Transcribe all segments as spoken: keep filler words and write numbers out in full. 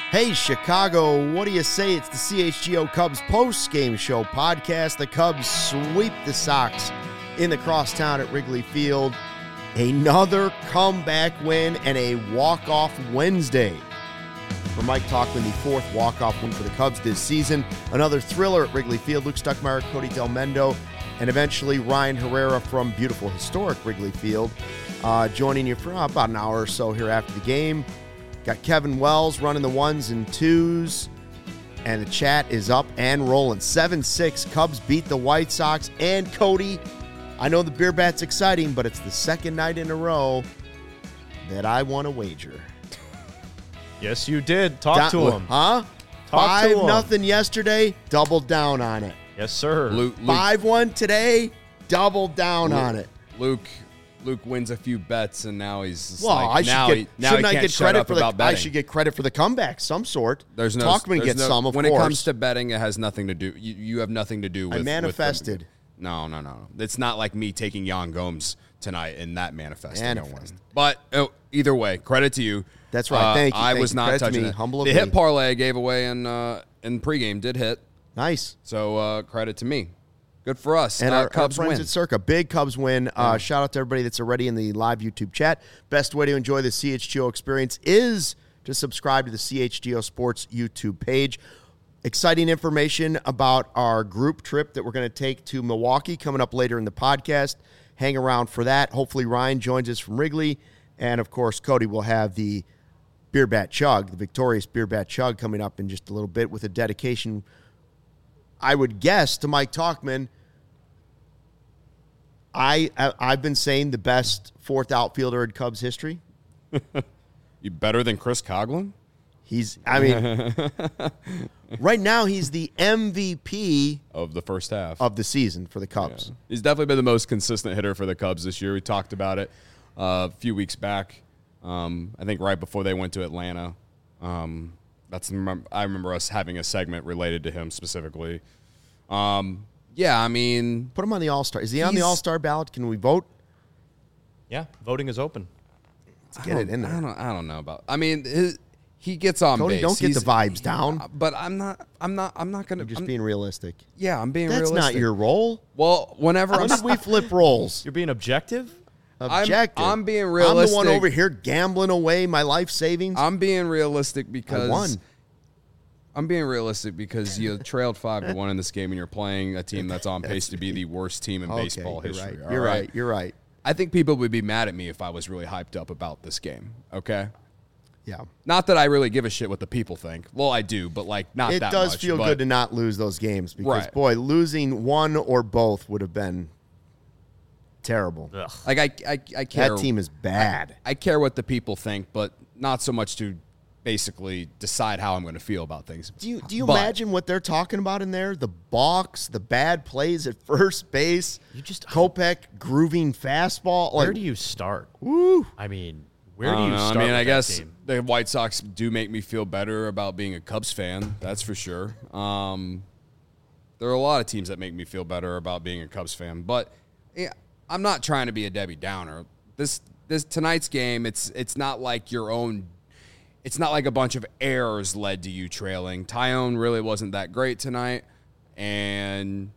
Hey, Chicago, what do you say? It's the C H G O Cubs post-game show podcast. The Cubs sweep the Sox in the crosstown at Wrigley Field. Another comeback win and a walk-off Wednesday for Mike Tauchman, the fourth walk-off win for the Cubs this season. Another thriller at Wrigley Field. Luke Stuckmeyer, Cody Delmendo, and eventually Ryan Herrera from beautiful, historic Wrigley Field, uh, joining you for about an hour or so here after the game. Got Kevin Wells running the ones and twos, and the chat is up and rolling. seven six, Cubs beat the White Sox. And Cody, I know the beer bat's exciting, but it's the second night in a row that I won a wager. Yes, you did. Talk Do- to him. Huh? Talk Five to him. nothing yesterday, doubled down on it. Yes, sir. Luke, Luke, Five one today, doubled down Luke, on it. Luke Luke wins a few bets, and now he's just Well, like, I should now get. he, now shouldn't he I can't get shut credit up for the? about I betting. should get credit for the comeback, some sort. There's no Talkman there's gets no, some, of when course. it comes to betting, it has nothing to do. You, you have nothing to do with. I manifested. With the, no, no, no. It's not like me taking Jan Gomes tonight and that manifesting. Manifest. But oh, either way, credit to you. That's right. Uh, Thank you. I Thank was you. not Credit to touching me. it. Humble of the me. hit parlay I gave away in uh, in pregame did hit. Nice. So uh, credit to me. Good for us. And uh, our, Cubs our friends win. at Circa, big Cubs win. Uh, Yeah. Shout out to everybody that's already in the live YouTube chat. Best way to enjoy the C H G O experience is to subscribe to the C H G O Sports YouTube page. Exciting information about our group trip that we're going to take to Milwaukee coming up later in the podcast. Hang around for that. Hopefully Ryan joins us from Wrigley. And, of course, Cody will have the Beer Bat Chug, the victorious Beer Bat Chug, coming up in just a little bit with a dedication, I would guess, to Mike Tauchman. I, I, I've been saying the best fourth outfielder in Cubs history. You better than Chris Coughlin? He's, I mean, right now he's the M V P Of the first half. of the season for the Cubs. Yeah. He's definitely been the most consistent hitter for the Cubs this year. We talked about it uh, a few weeks back. Um, I think right before they went to Atlanta. Um, that's I remember us having a segment related to him specifically. Um, yeah, I mean, Put him on the All-Star. Is he on the He's- All-Star ballot? Can we vote? Yeah, voting is open. Let's get it in I there. don't, I don't know about. I mean, his, he gets on Cody, base. don't get He's- the vibes down. But I'm not. I'm not. I'm not gonna. You're just I'm- being realistic. Yeah, I'm being. That's realistic. not your role. Well, whenever When I'm. did we flip roles? You're being objective? Objective. I'm being I'm the realistic. one over here gambling away my life savings. I'm being realistic because I won. I'm being realistic because you trailed five to one in this game, and you're playing a team that's on pace to be the worst team in Okay, baseball you're history. right. all You're right. You're right. I think people would be mad at me if I was really hyped up about this game. Okay. Yeah. Not that I really give a shit what the people think. Well, I do, but like not It that does much, feel but good to not lose those games because, Right. boy, losing one or both would have been terrible. Ugh. like I, I, I care. That team is bad. I care what the people think, but not so much to basically decide how I'm going to feel about things. Do you do you But- imagine what they're talking about in there? The balks, the bad plays at first base. You just- Kopech grooving fastball. Where Like, do you start? woo. I mean, where I do don't you know. start? I mean, with I that guess game? the White Sox do make me feel better about being a Cubs fan. That's for sure. Um, there are a lot of teams that make me feel better about being a Cubs fan, but yeah, I'm not trying to be a Debbie Downer. This this tonight's game, it's it's not like your own. It's not like a bunch of errors led to you trailing. Tyone really wasn't that great tonight, and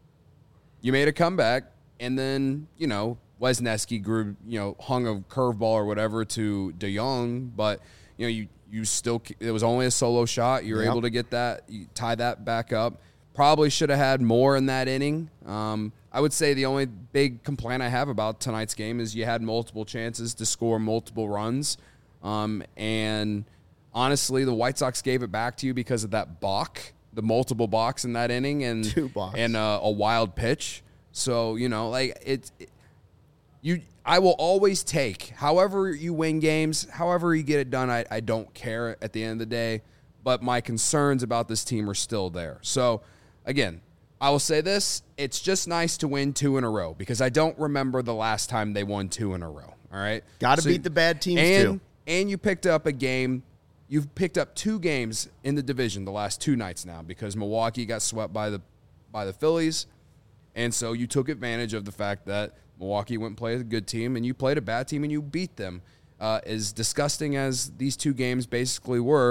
you made a comeback, and then, you know, Wesneski grew, you know, hung a curveball or whatever to DeYoung, but, you know, you, you still, it was only a solo shot. You were Yep. able to get that, you tie that back up. Probably should have had more in that inning. Um, I would say the only big complaint I have about tonight's game is you had multiple chances to score multiple runs. Um, and honestly, the White Sox gave it back to you because of that balk, the multiple balks in that inning, and Two balks. and uh, a wild pitch. So, you know, like it's it, you. I will always take however you win games, however you get it done. I, I don't care at the end of the day, but my concerns about this team are still there. So, again, I will say this: it's just nice to win two in a row because I don't remember the last time they won two in a row. All right, Got to So- beat the bad teams, and, too. And you picked up a game. You've picked up two games in the division the last two nights now because Milwaukee got swept by the by the Phillies, and so you took advantage of the fact that Milwaukee went and played a good team, and you played a bad team, and you beat them. Uh, as disgusting as these two games basically were,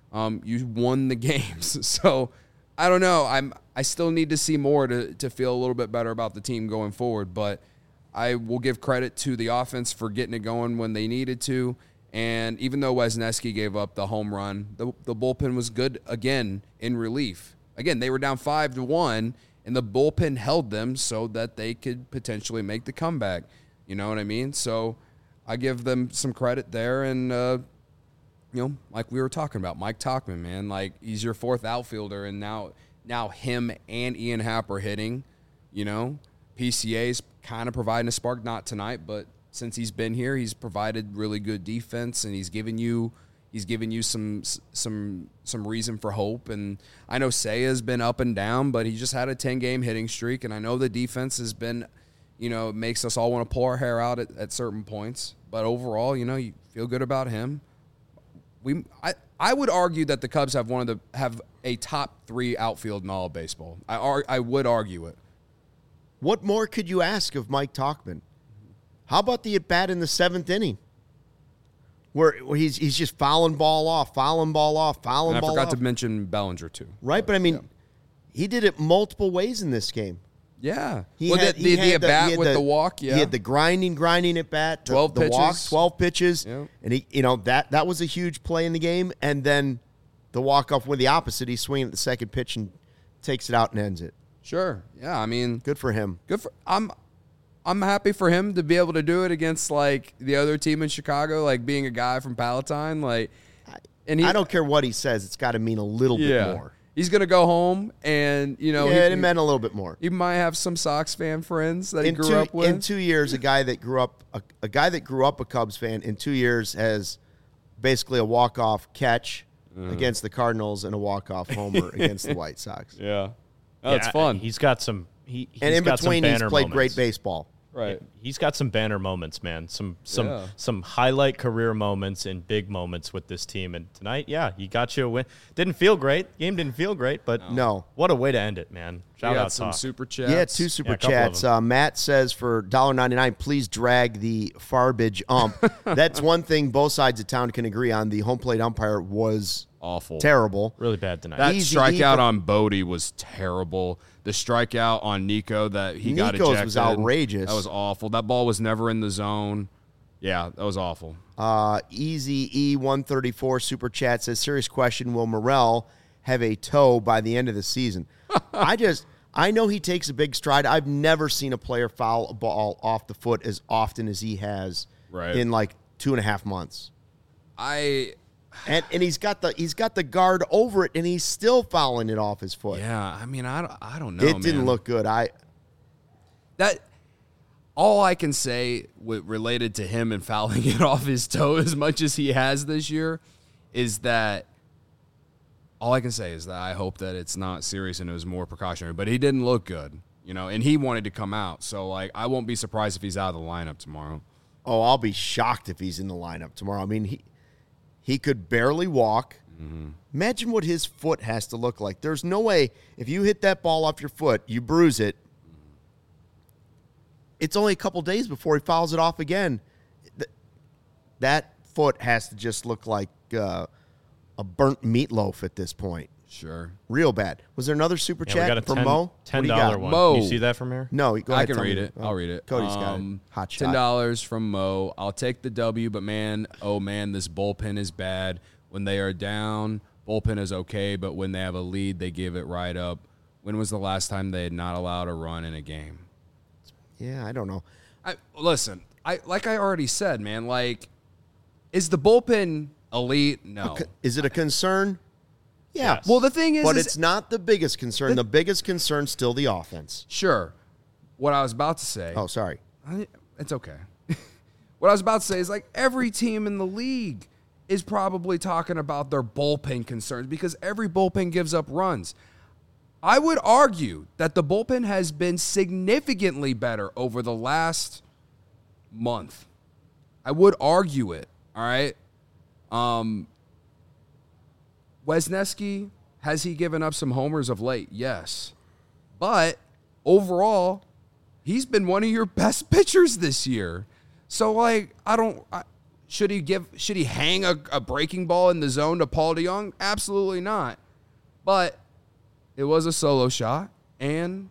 Um, you won the games. So I don't know. I'm I still need to see more to to feel a little bit better about the team going forward. But I will give credit to the offense for getting it going when they needed to. And even though Wisniewski gave up the home run, the the bullpen was good again in relief. Again, they were down five to one, and the bullpen held them so that they could potentially make the comeback. You know what I mean? So I give them some credit there. And, uh, you know, like we were talking about, Mike Tauchman, man, like he's your fourth outfielder, and now now him and Ian Happ are hitting. You know, P C A's kind of providing a spark, not tonight, but since he's been here, he's provided really good defense, and he's given you he's given you some some some reason for hope. And I know Seiya's been up and down, but he just had a ten-game hitting streak, and I know the defense has been, you know, makes us all want to pull our hair out at, at certain points. But overall, you know, you feel good about him. We I, I would argue that the Cubs have one of the have a top three outfield in all of baseball. I ar- I would argue it. What more could you ask of Mike Tauchman? How about the at-bat in the seventh inning? Where, where he's he's just fouling ball off, fouling ball off, fouling And I ball forgot off. to mention Bellinger too. Right, but I mean, Yeah. he did it multiple ways in this game. Yeah. He well, had, the, he the, had the at-bat he had with the, walk, yeah. He had the grinding, grinding at bat, the, twelve the walk, pitches. twelve pitches, Yeah. and he, you know, that that was a huge play in the game. And then the walk off with the opposite, he's swinging at the second pitch and takes it out and ends it. Sure. Yeah, I mean, Good for him. good for I'm I'm happy for him to be able to do it against like the other team in Chicago, like being a guy from Palatine, like and he, I don't care what he says; it's got to mean a little yeah. bit more. He's gonna go home, and you know, Yeah, he, it meant a little bit more. he might have some Sox fan friends that he In grew two, up with. in two years, a guy that grew up a, a guy that grew up a Cubs fan in two years has basically a walk off catch Mm-hmm. against the Cardinals and a walk off homer against the White Sox. yeah, oh, it's Yeah, fun, He's got some. He, he's And in got between, some he's banner played moments. great baseball. right? He's got some banner moments, man. Some some Yeah. some highlight career moments and big moments with this team. And tonight, yeah, he got you a win. Didn't feel great. Game didn't feel great, but No. what a way to end it, man. Shout We out got some Talk. super chats. Yeah, two super Yeah, a couple of chats. them. Uh, Matt says for one dollar ninety-nine, please drag the Farbage ump. That's one thing both sides of town can agree on. The home plate umpire was awful, terrible. Really bad tonight. That Easy strikeout for- on Bodie was terrible. The strikeout on Nico that he got Nico's ejected was outrageous. That was awful. That ball was never in the zone. Yeah, that was awful. Uh, Easy E one thirty-four super chat says, serious question, will Morel have a toe by the end of the season? I just, I know he takes a big stride. I've never seen a player foul a ball off the foot as often as he has Right. in like two and a half months. I And and he's got the he's got the guard over it, and he's still fouling it off his foot. yeah, I mean, I don't, I don't know. it didn't man. look good. I that. All I can say with, related to him and fouling it off his toe as much as he has this year is that all I can say is that I hope that it's not serious and it was more precautionary. But he didn't look good, you know, and he wanted to come out. So, like, I won't be surprised if he's out of the lineup tomorrow. oh, I'll be shocked if he's in the lineup tomorrow. I mean, he he could barely walk. Mm-hmm. Imagine what his foot has to look like. There's no way if you hit that ball off your foot, you bruise it. It's only a couple days before he fouls it off again. Th- That foot has to just look like uh, a burnt meatloaf at this point. Sure. Real bad. Was there another super Yeah, we chat got a from ten, Mo? ten What do you dollar got? one. Mo. Can you see that from here? No, go I ahead. can tell read me. it. Oh, I'll read it. Cody's got Um, it. Hot Ten shot. dollars from Mo. I'll take the W, but man, oh man, this bullpen is bad. When they are down, bullpen is okay, but when they have a lead, they give it right up. When was the last time they had not allowed a run in a game? Yeah, I don't know. I listen. I like I already said, man. Like, is the bullpen elite? No. Is it a concern? Yeah. Yes. Well, the thing is, But is- it's not the biggest concern. The biggest concern's still the offense. sure. What I was about to say. Oh, sorry. I- It's okay. What I was about to say is like every team in the league is probably talking about their bullpen concerns because every bullpen gives up runs. I would argue that the bullpen has been significantly better over the last month. I would argue it, all right? Um, Wisniewski, has he given up some homers of late? Yes. But overall, he's been one of your best pitchers this year. So, like, I don't I, Should he give? Should he hang a, a breaking ball in the zone to Paul DeJong? Absolutely not. But it was a solo shot, and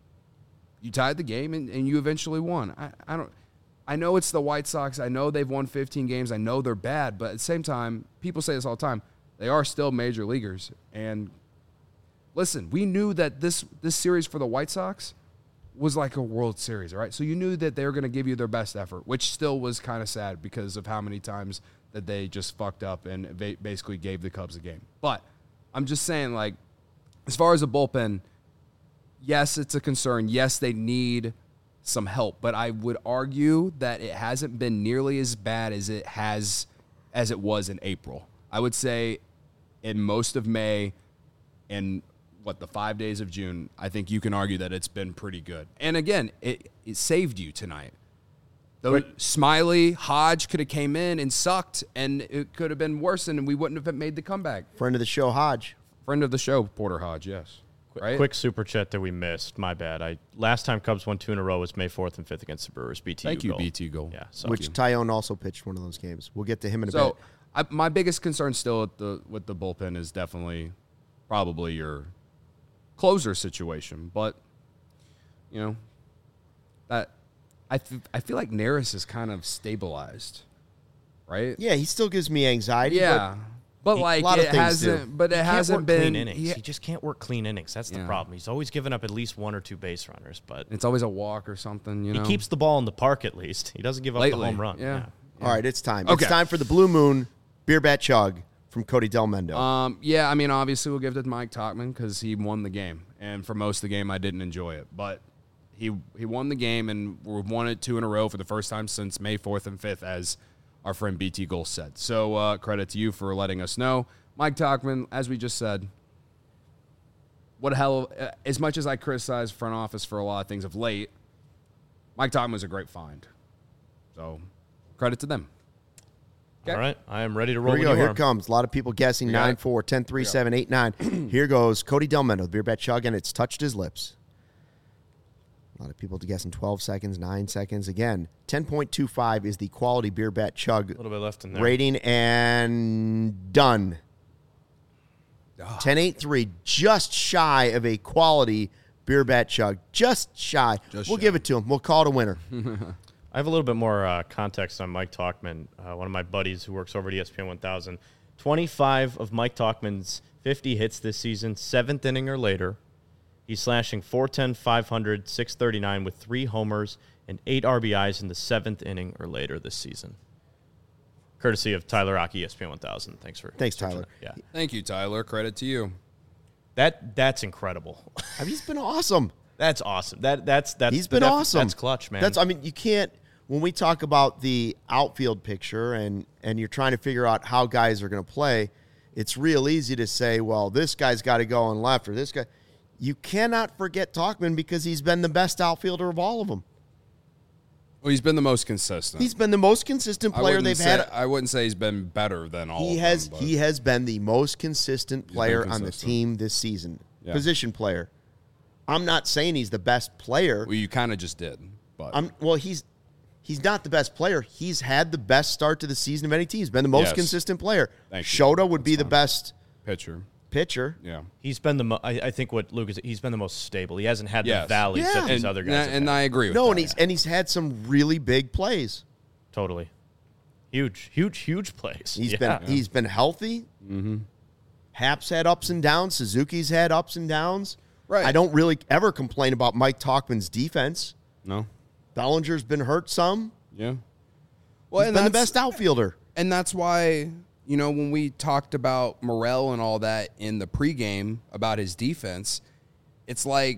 you tied the game, and, and you eventually won. I, I don't. I know it's the White Sox. I know they've won fifteen games. I know they're bad, but at the same time, people say this all the time. They are still major leaguers. And listen, we knew that this this series for the White Sox was like a World Series, all right? So you knew that they were going to give you their best effort, which still was kind of sad because of how many times that they just fucked up and basically gave the Cubs a game. But I'm just saying, like, as far as the bullpen, yes, it's a concern. Yes, they need some help, but I would argue that it hasn't been nearly as bad as it has as it was in April. I would say in most of May and what, the five days of June, I think you can argue that it's been pretty good. And again, it, it saved you tonight. Though Smiley, Hodge could have came in and sucked, and it could have been worse, and we wouldn't have made the comeback. Friend of the show, Hodge. Friend of the show, Porter Hodge, yes. Right? Quick super chat that we missed. My bad. I last time Cubs won two in a row was May fourth and fifth against the Brewers. B T U Thank you, goal. B T goal. Yeah, so. Which Tyone also pitched one of those games. We'll get to him in a so, bit. I, my biggest concern still with the with the bullpen is definitely probably your closer situation. But, you know, that I, th- I feel like Neris is kind of stabilized, right? Yeah, he still gives me anxiety. Yeah. But, He- like, a lot of it things hasn't, do. but it He can't hasn't work been. clean innings. he- He just can't work clean innings. That's the Yeah. problem. He's always giving up at least one or two base runners, but it's always a walk or something, you he know? keeps the ball in the park at least. He doesn't give up Lately, the home run. yeah. But, all right, it's time. Okay. It's time for the Blue Moon Beer Bat Chug from Cody Del Mendo. Um, yeah, I mean, obviously we'll give it to Mike Tauchman because he won the game, and for most of the game I didn't enjoy it, but he he won the game, and we've won it two in a row for the first time since May fourth and fifth, as our friend B T Gold said. So uh, credit to you for letting us know, Mike Tauchman. As we just said, what a hell! Of, uh, as much as I criticize front office for a lot of things of late, Mike Tauchman was a great find. So credit to them. Okay. All right, I am ready to roll. Here we when go. you Here are. it comes. A lot of people guessing We got nine it. four, ten three, seven eight nine. Here goes Cody Del Mendo, the Beer Bat Chug, and it's touched his lips. A lot of people guessing twelve seconds, nine seconds. Again, ten point two five is the quality Beer Bat Chug A little bit left in there. rating, and done. ten eight three, just shy of a quality Beer Bat Chug. Just shy. Just we'll shy. give it to him. We'll call it a winner. I have a little bit more uh, context on Mike Tauchman, uh, one of my buddies who works over at E S P N one thousand. twenty-five of Mike Tauchman's fifty hits this season, seventh inning or later. He's slashing four ten, five hundred, six thirty-nine with three homers and eight R B Is in the seventh inning or later this season. Courtesy of Tyler Rock, E S P N one thousand. Thanks for Thanks, searching Tyler. that. Yeah, Thank you, Tyler. Credit to you. that that's incredible. I mean, he's been awesome. That's awesome. That that's that's He's been def- awesome. That's clutch, man. That's I mean, you can't when we talk about the outfield picture and and you're trying to figure out how guys are going to play, it's real easy to say, well, this guy's got to go on left or this guy. You cannot forget Tauchman because he's been the best outfielder of all of them. Well, he's been the most consistent. He's been the most consistent I player wouldn't they've say- had. I wouldn't say he's been better than all. He of has them, but- he has been the most consistent player on the consistent. team this season. Yeah. Position player. I'm not saying he's the best player. Well, you kind of just did, but I'm well. He's he's not the best player. He's had the best start to the season of any team. He's been the most Yes. consistent player. Thank you. Shota would be That's the fine. best pitcher. pitcher. Yeah. He's been the mo- I, I think what Luke is he's been the most stable. He hasn't had Yes. the valleys Yeah. that these and, other guys and, have and had. I agree with No, that. and he's and he's had some really big plays. Totally. Huge, huge, huge plays. He's Yeah. been he's been healthy. Mm-hmm. Hap's had ups and downs. Suzuki's had ups and downs. Right. I don't really ever complain about Mike Tauchman's defense. No. Bellinger's been hurt some. Yeah. Well, He's and been the that's- best outfielder. And that's why, you know, when we talked about Morel and all that in the pregame about his defense, it's like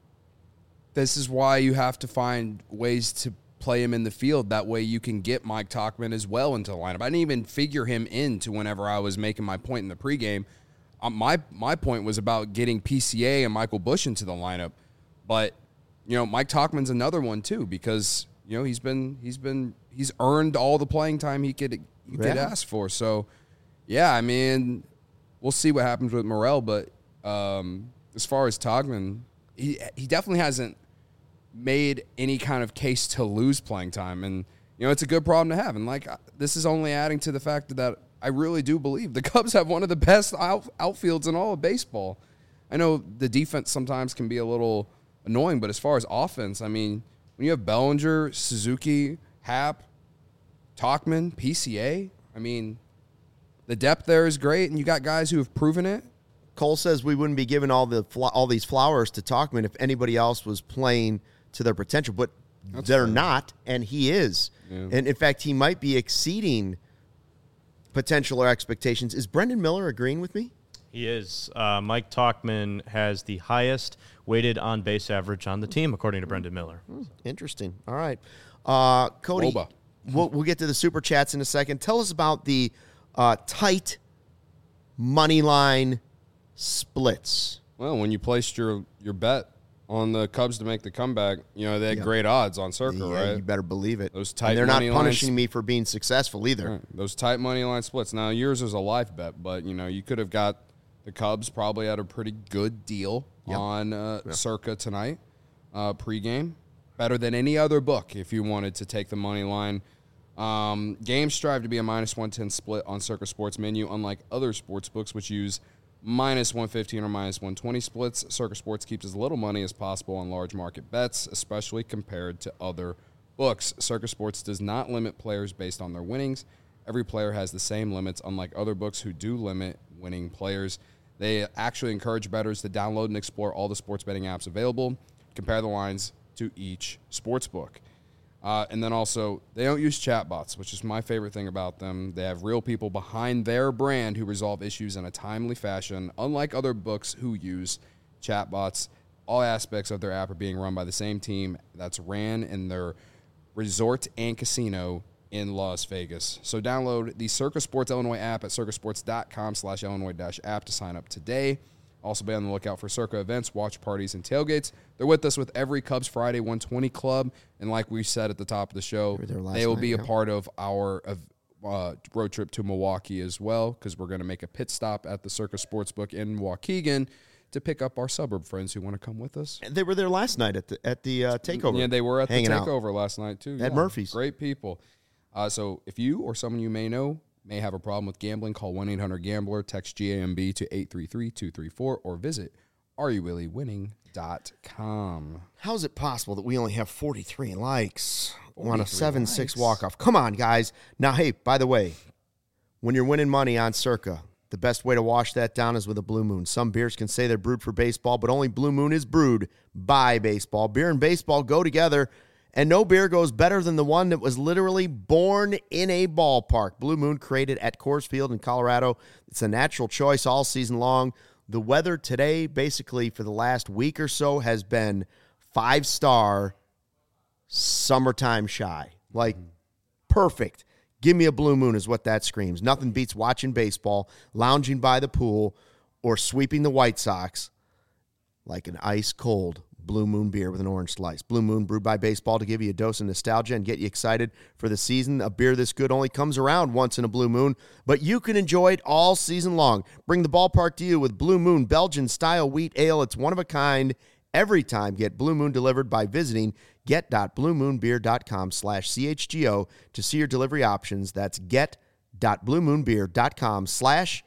this is why you have to find ways to play him in the field. That way you can get Mike Tauchman as well into the lineup. I didn't even figure him into whenever I was making my point in the pregame. Um, my my point was about getting P C A and Michael Busch into the lineup. But, you know, Mike Tauchman's another one too because, you know, he's been he's been he's earned all the playing time he could he could Yeah. ask for. So, yeah, I mean, we'll see what happens with Morel, but um, as far as Tauchman, he he definitely hasn't made any kind of case to lose playing time, and you know it's a good problem to have. And like this is only adding to the fact that I really do believe the Cubs have one of the best out, outfields in all of baseball. I know the defense sometimes can be a little annoying, but as far as offense, I mean, when you have Bellinger, Suzuki, Happ, Tauchman, P C A, I mean, the depth there is great, and you got guys who have proven it. Cole says we wouldn't be giving all the all these flowers to Tauchman if anybody else was playing to their potential, but That's they're fair. not, and he is. Yeah. And, in fact, he might be exceeding potential or expectations. Is Brendan Miller agreeing with me? He is. Uh, Mike Tauchman has the highest weighted on-base average on the team, according to Brendan Miller. Hmm, interesting. All right. Uh, Cody, we'll, we'll get to the Super Chats in a second. Tell us about the uh, tight money line splits. Well, when you placed your, your bet on the Cubs to make the comeback, you know, they had yeah. great odds on Circa, yeah, right? You better believe it. Those tight and they're money not punishing lines, me for being successful either. Right. Those tight money line splits. Now, yours is a live bet, but, you know, you could have got the Cubs probably at a pretty good deal yep. on uh, yep. Circa tonight, uh, pregame. Better than any other book if you wanted to take the money line. Um, games strive to be a minus one ten split on Circa Sports menu, unlike other sports books which use minus one fifteen or minus one twenty splits. Circa Sports keeps as little money as possible on large market bets, especially compared to other books. Circa Sports does not limit players based on their winnings. Every player has the same limits, unlike other books who do limit winning players. They actually encourage bettors to download and explore all the sports betting apps available, compare the lines to each sports book. Uh, and then also, they don't use chatbots, which is my favorite thing about them. They have real people behind their brand who resolve issues in a timely fashion, unlike other books who use chatbots. All aspects of their app are being run by the same team that's ran in their resort and casino in Las Vegas. So download the Circa Sports Illinois app at circasports.com slash Illinois dash app to sign up today. Also be on the lookout for Circa events, watch parties, and tailgates. They're with us with every Cubs Friday one twenty club. And like we said at the top of the show, they will night, be yeah. a part of our uh, road trip to Milwaukee as well, because we're going to make a pit stop at the Circa Sportsbook in Waukegan to pick up our suburb friends who want to come with us. They were there last night at the at the uh, takeover. Yeah, they were at the takeover out. last night too. At yeah. Murphy's. Great people. Uh, so if you or someone you may know may have a problem with gambling, call one eight hundred gambler, text G A M B to eight three three two three four, or visit are you really winning dot com. How is it possible that we only have forty-three likes on a seven six walk-off? Come on, guys. Now, hey, by the way, when you're winning money on Circa, the best way to wash that down is with a Blue Moon. Some beers can say they're brewed for baseball, but only Blue Moon is brewed by baseball. Beer and baseball go together, and no beer goes better than the one that was literally born in a ballpark. Blue Moon, created at Coors Field in Colorado. It's a natural choice all season long. The weather today, basically for the last week or so, has been five-star summertime shy. Like, perfect. Give me a Blue Moon is what that screams. Nothing beats watching baseball, lounging by the pool, or sweeping the White Sox like an ice-cold Blue Moon beer with an orange slice. Blue Moon, brewed by baseball to give you a dose of nostalgia and get you excited for the season. A beer this good only comes around once in a Blue Moon, but you can enjoy it all season long. Bring the ballpark to you with Blue Moon Belgian-style wheat ale. It's one of a kind every time. Get Blue Moon delivered by visiting get.bluemoonbeer.com slash CHGO to see your delivery options. That's get.bluemoonbeer.com slash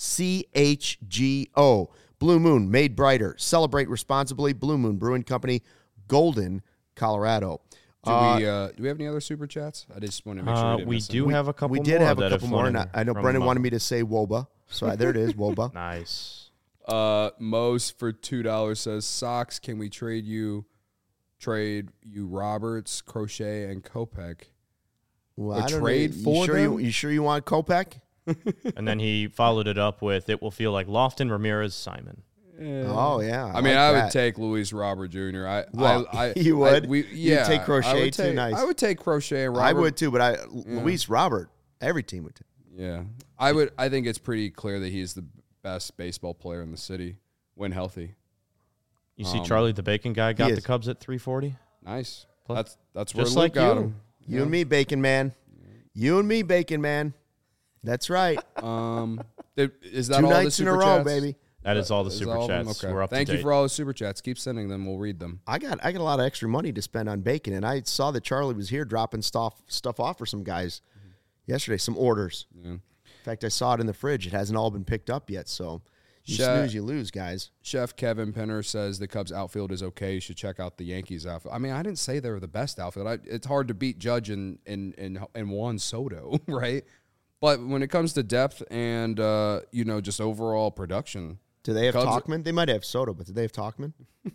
CHGO. Blue Moon, made brighter. Celebrate responsibly. Blue Moon Brewing Company, Golden, Colorado. Do uh, we uh, do we have any other super chats? I just want to make sure uh, we, we do we, have a couple. We did more have a couple more. And I, I know Brendan uh, wanted me to say Woba, so I, there it is, Woba. Nice. Uh, Mose for two dollars says, Sox, can we trade you, trade you Roberts, Crochet, and Kopech? Well, or I don't trade know. for you sure them? You, you sure you want Kopech? And then he followed it up with, it will feel like Lofton, Ramirez, Simon. Yeah. Oh, yeah. I, I mean, like I that. would take Luis Robert Junior I, well, I, I you would? I, we, yeah. You'd take Crochet, I would too take, nice. I would take Crochet and Robert. I would, too, but I, Yeah. Luis Robert, every team would take. Yeah. I would. I think it's pretty clear that he's the best baseball player in the city when healthy. You see Um, Charlie the Bacon guy got is. the Cubs at three forty? Nice. Plus- That's that's where just Luke like got you. him. You Yeah. and me, Bacon Man. You and me, Bacon Man. That's right. Um, did, is that Two all the nights in super a row, chats? baby. That is all the Is super all of them? chats. Okay. We're up Thank to you date. for all the super chats. Keep sending them. We'll read them. I got I got a lot of extra money to spend on bacon, and I saw that Charlie was here dropping stuff stuff off for some guys. yesterday. Some orders. Yeah. In fact, I saw it in the fridge. It hasn't all been picked up yet, so you Chef, snooze, you lose, guys. Chef Kevin Penner says the Cubs outfield is okay. You should check out the Yankees outfield. I mean, I didn't say they were the best outfield. I, it's hard to beat Judge and, and, and, and Juan Soto, right? But when it comes to depth and, uh, you know, just overall production. Do they have Cubs Tauchman? They might have Soto, but do they have Tauchman?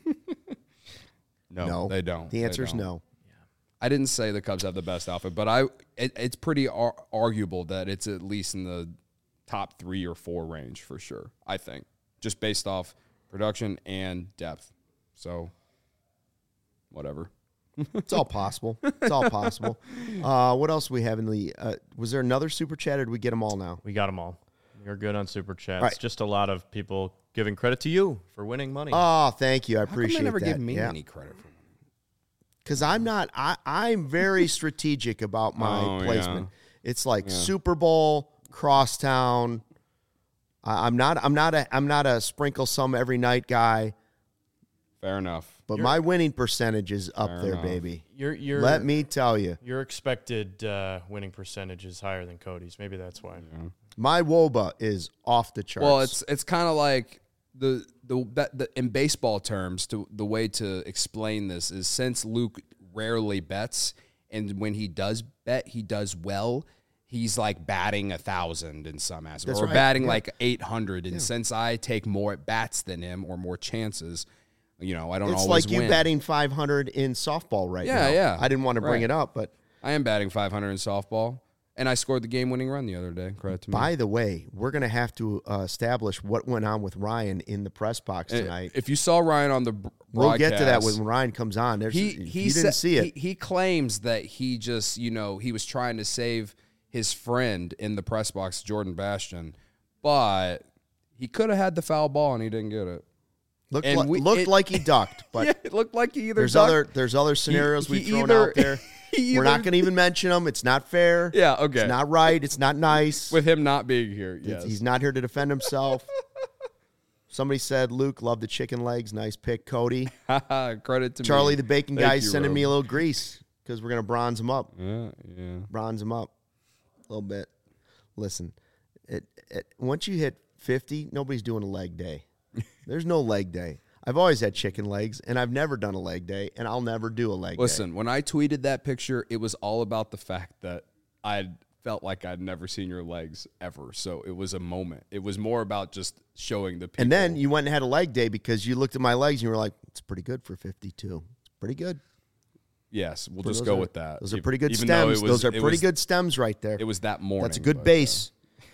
No, no, they don't. The answer is don't. no. I didn't say the Cubs have the best outfit, but I it, it's pretty ar- arguable that it's at least in the top three or four range for sure, I think, just based off production and depth. So, whatever. It's all possible. It's all possible. Uh, what else do we have in the uh, – was there another Super Chat, or did we get them all now? We got them all. You're good on Super Chats. Right. Just a lot of people giving credit to you for winning money. Oh, thank you. I How come appreciate they never that. give me yeah. any credit for Because I'm not, I, I'm very strategic about my Oh, placement. yeah. It's like Yeah. Super Bowl, Crosstown. I, I'm not, I'm not a, I'm not a sprinkle some every night guy, Fair enough. but You're- my winning percentage is up Fair there, enough. baby. Your your Let me tell you, your expected uh, winning percentage is higher than Cody's. Maybe that's why. my W O B A is off the charts. Well, it's it's kind of like the, the that the in baseball terms. To the way to explain this is since Luke rarely bets, and when he does bet, he does well. He's like batting a thousand in some aspects, That's or right, batting yeah. like eight hundred. And since I take more at bats than him or more chances, you know, I don't it's always like you win. batting five hundred in softball right Yeah, now. yeah. I didn't want to bring Right. it up, but I am batting five hundred in softball, and I scored the game-winning run the other day. Credit to me. by the way, we're going to have to uh, establish what went on with Ryan in the press box Uh, tonight. If you saw Ryan on the br- We'll get to that broadcast, when Ryan comes on. There's, he if he you didn't sa- see it. He, he claims that he just you know he was trying to save his friend in the press box, Jordan Bastion, but he could have had the foul ball and he didn't get it. Looked, and like, we- looked it- like he ducked, but yeah, it looked like he either there's ducked- other there's other scenarios he we've thrown either- out there. he We're not either- going to even mention them. It's not fair. Yeah, okay. It's not right. It's not nice. With him not being here. Yes. He's not here to defend himself. Somebody said, Luke, love the chicken legs. Nice pick, Cody. Credit to Charlie, me. the bacon Thank guy's you, sending Rob. me a little grease because we're going to bronze him up. Yeah, yeah. Bronze him up a little bit. Listen, it, it, once you hit fifty, nobody's doing a leg day. There's no leg day. I've always had chicken legs, and I've never done a leg day, and I'll never do a leg Listen, day. when I tweeted that picture, it was all about the fact that I felt like I'd never seen your legs ever. So it was a moment. It was more about just showing the people. And then you went and had a leg day because you looked at my legs and you were like, it's pretty good for fifty-two. It's pretty good. yes, we'll Those just go are- with that. Those are Even- pretty good even though it stems. was- Those are it pretty was- good stems right there. It was that morning. That's a good but, uh, base.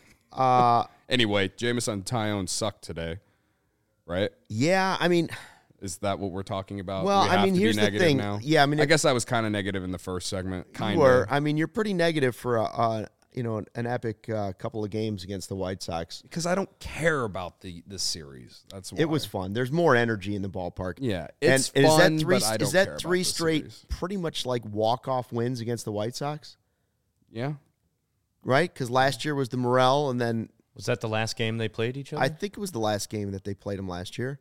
Uh, anyway, Jameson Tyone sucked today, right? yeah, I mean, Is that what we're talking about? Well, We I have mean, to be here's the negative thing. Now? Yeah, I mean, I if- guess I was kind of negative in the first segment. Kind you were. of. I mean, you're pretty negative for a, a you know an, an epic uh, couple of games against the White Sox. Because I don't care about the this series. That's why. It was fun. There's more energy in the ballpark. Yeah, and, it's and is fun, that three? but I is don't that care three about the straight? series. Pretty much like walk off wins against the White Sox, Yeah. right? Because last year was the Morel, and then Was that the last game they played each other? I think it was the last game that they played them last year.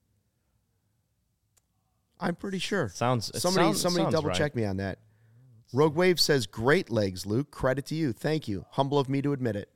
I'm pretty sure. Sounds it Somebody, sounds- somebody sounds double right. check me on that. Rogue Wave says, "Great legs, Luke. Credit to you. Thank you. Humble of me to admit it."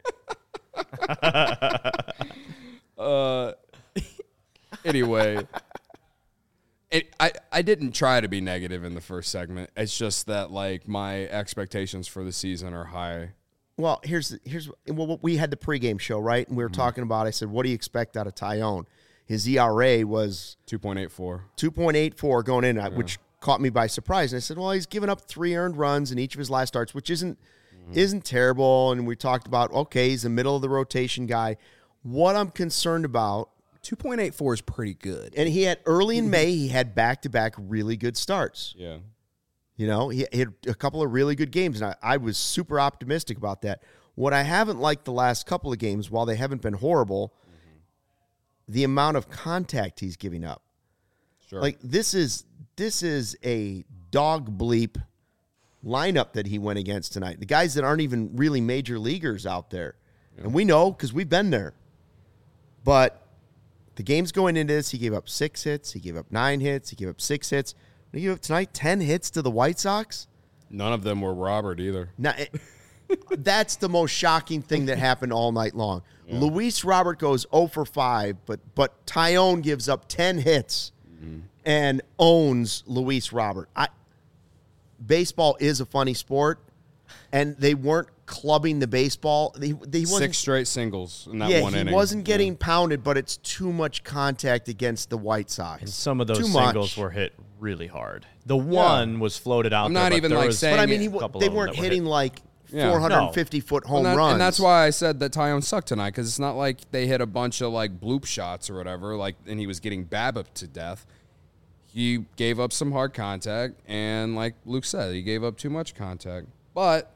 Uh. Anyway, it, I I didn't try to be negative in the first segment. It's just that like my expectations for the season are high. Well, here's here's well, we had the pregame show, right? And we were Mm-hmm. talking about. I said, "What do you expect out of Tyone?" His E R A was Two point eight four. two point eight four going in, which caught me by surprise. And I said, "Well, he's given up three earned runs in each of his last starts, which isn't Mm-hmm. isn't terrible." And we talked about, okay, he's a middle of the rotation guy. What I'm concerned about, Two point eight four is pretty good. and he had early in May, he had back to back really good starts. Yeah. You know, he, he had a couple of really good games, and I, I was super optimistic about that. What I haven't liked the last couple of games, while they haven't been horrible, mm-hmm. the amount of contact he's giving up. Sure. Like this is this is a dog bleep lineup that he went against tonight. The guys that aren't even really major leaguers out there, yeah. And we know because we've been there. But the game's going into this, he gave up six hits, he gave up nine hits, he gave up six hits. He gave up tonight ten hits to the White Sox. None of them were Robert either. Now, it, that's the most shocking thing that happened all night long. Yeah. Luis Robert goes oh for five, but but Taillon gives up ten hits mm-hmm. and owns Luis Robert. I, baseball is a funny sport, and they weren't clubbing the baseball. They, they Six straight singles in that yeah, one he inning. He wasn't getting yeah. pounded, but it's too much contact against the White Sox. And some of those too singles much. were hit really hard. The one yeah. was floated out I'm there, not but even there like was saying But I mean, he, they were weren't hitting hit. like Yeah. four hundred fifty foot home and that, runs. And that's why I said that Taillon sucked tonight, because it's not like they hit a bunch of like bloop shots or whatever, like, and he was getting BABIP to death. He gave up some hard contact, and like Luke said, he gave up too much contact. But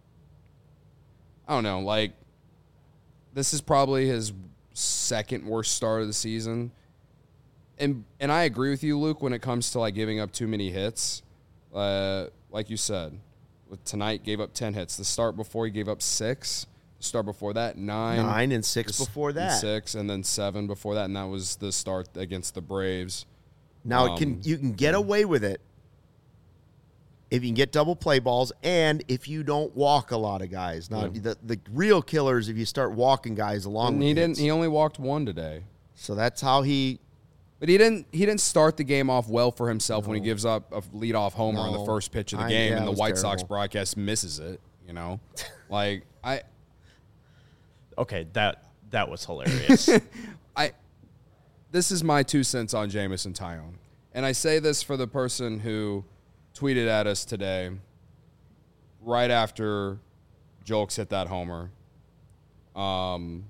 I don't know, like, this is probably his second worst start of the season. And and I agree with you, Luke, when it comes to like giving up too many hits. Uh, like you said, with tonight gave up ten hits. The start before he gave up six. The start before that, nine. Nine and six the, before that. And six, and then seven before that, and that was the start against the Braves. Now um, it can you can get away with it if you can get double play balls and if you don't walk a lot of guys. Now yeah. the the real killers if you start walking guys along. And with he didn't. hits. He only walked one today. So that's how he. But he didn't. He didn't start the game off well for himself no. when he gives up a leadoff homer no. on the first pitch of the I, game, yeah, and the White terrible. Sox broadcast misses it. You know, like I. Okay, that that was hilarious. I. This is my two cents on Jameson Taillon, and I say this for the person who tweeted at us today, right after Jolks hit that homer. Um.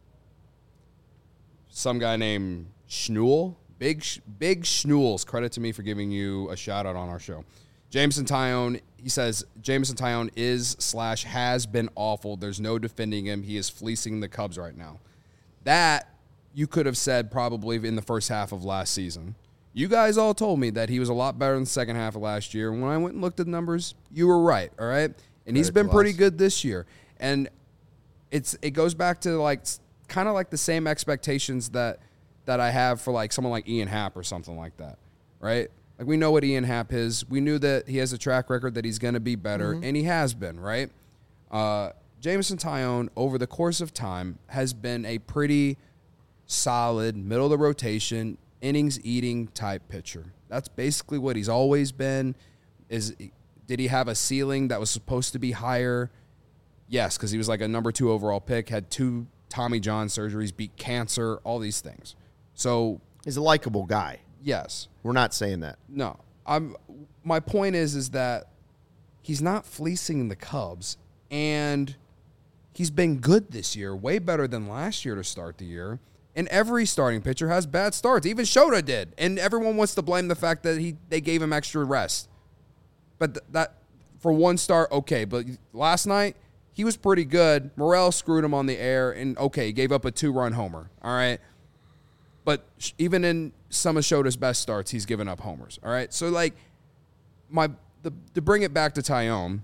Some guy named Schnool. Big Big Schnuels, credit to me for giving you a shout-out on our show. Jameson Taillon, he says, Jameson Taillon is slash has been awful. There's no defending him. He is fleecing the Cubs right now. That you could have said probably in the first half of last season. You guys all told me that he was a lot better in the second half of last year. When I went and looked at the numbers, you were right, all right? And he's been pretty good this year. And it's it goes back to like kind of like the same expectations that – that I have for like someone like Ian Happ or something like that, right? Like we know what Ian Happ is. We knew that he has a track record that he's going to be better, mm-hmm. and he has been, right? Uh, Jameson Taillon, over the course of time, has been a pretty solid, middle-of-the-rotation, innings-eating type pitcher. That's basically what he's always been. Is Did he have a ceiling that was supposed to be higher? Yes, because he was like a number two overall pick, had two Tommy John surgeries, beat cancer, all these things. So he's a likable guy. Yes. We're not saying that. No. I'm my point is is that he's not fleecing the Cubs, and he's been good this year, way better than last year to start the year. And every starting pitcher has bad starts. Even Shota did. And everyone wants to blame the fact that he they gave him extra rest. But th- that for one start, okay. But last night, he was pretty good. Morel screwed him on the air, and okay, he gave up a two-run homer. All right. But even in some of Shota's best starts, he's given up homers. All right. So, like, my the, to bring it back to Taillon,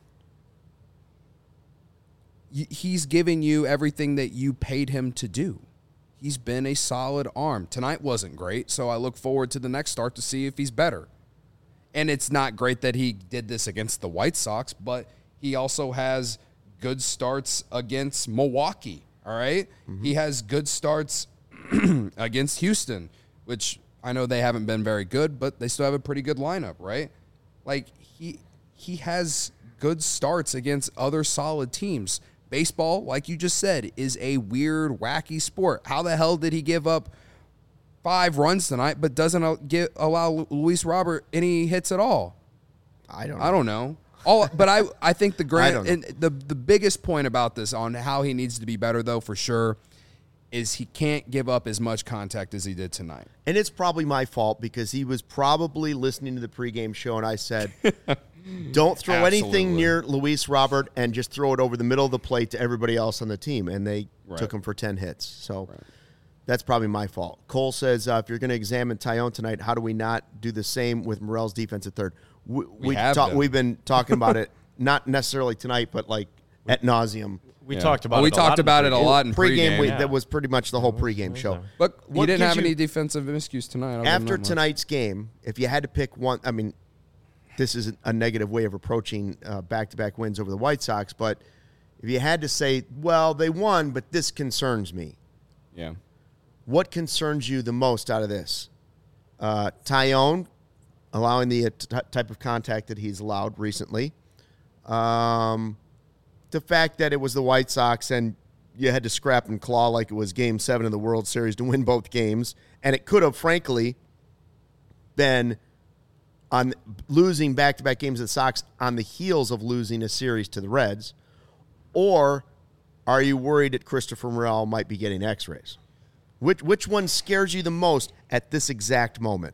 he's giving you everything that you paid him to do. He's been a solid arm. Tonight wasn't great, so I look forward to the next start to see if he's better. And it's not great that he did this against the White Sox, but he also has good starts against Milwaukee. All right. Mm-hmm. He has good starts against Houston, which I know they haven't been very good, but they still have a pretty good lineup, right? Like, he he has good starts against other solid teams. Baseball, like you just said, is a weird, wacky sport. How the hell did he give up five runs tonight but doesn't get, allow Luis Robert any hits at all? I don't know. I don't know. All, but I, I think the grand and the the biggest point about this on how he needs to be better, though, for sure, is he can't give up as much contact as he did tonight. And it's probably my fault because he was probably listening to the pregame show, and I said, don't throw anything near Luis Robert and just throw it over the middle of the plate to everybody else on the team. And they right. took him for ten hits. So right. that's probably my fault. Cole says, uh, if you're going to examine Taillon tonight, how do we not do the same with Morel's defense at third? We, we, we have ta- we've been talking about it, not necessarily tonight, but like at nauseum. We yeah. talked about well, it we talked about it a lot in pregame. pregame. We, yeah. That was pretty much the whole pregame show. But what he didn't have you, any defensive miscues tonight. After tonight's game, if you had to pick one, I mean, this is a negative way of approaching uh, back-to-back wins over the White Sox, but if you had to say, well, they won, but this concerns me. Yeah. What concerns you the most out of this? Uh, Tyone allowing the uh, t- type of contact that he's allowed recently. Um, the fact that it was the White Sox and you had to scrap and claw like it was Game seven of the World Series to win both games. And it could have, frankly, been on losing back-to-back games of the Sox on the heels of losing a series to the Reds. Or are you worried that Christopher Morel might be getting x-rays? Which which one scares you the most at this exact moment?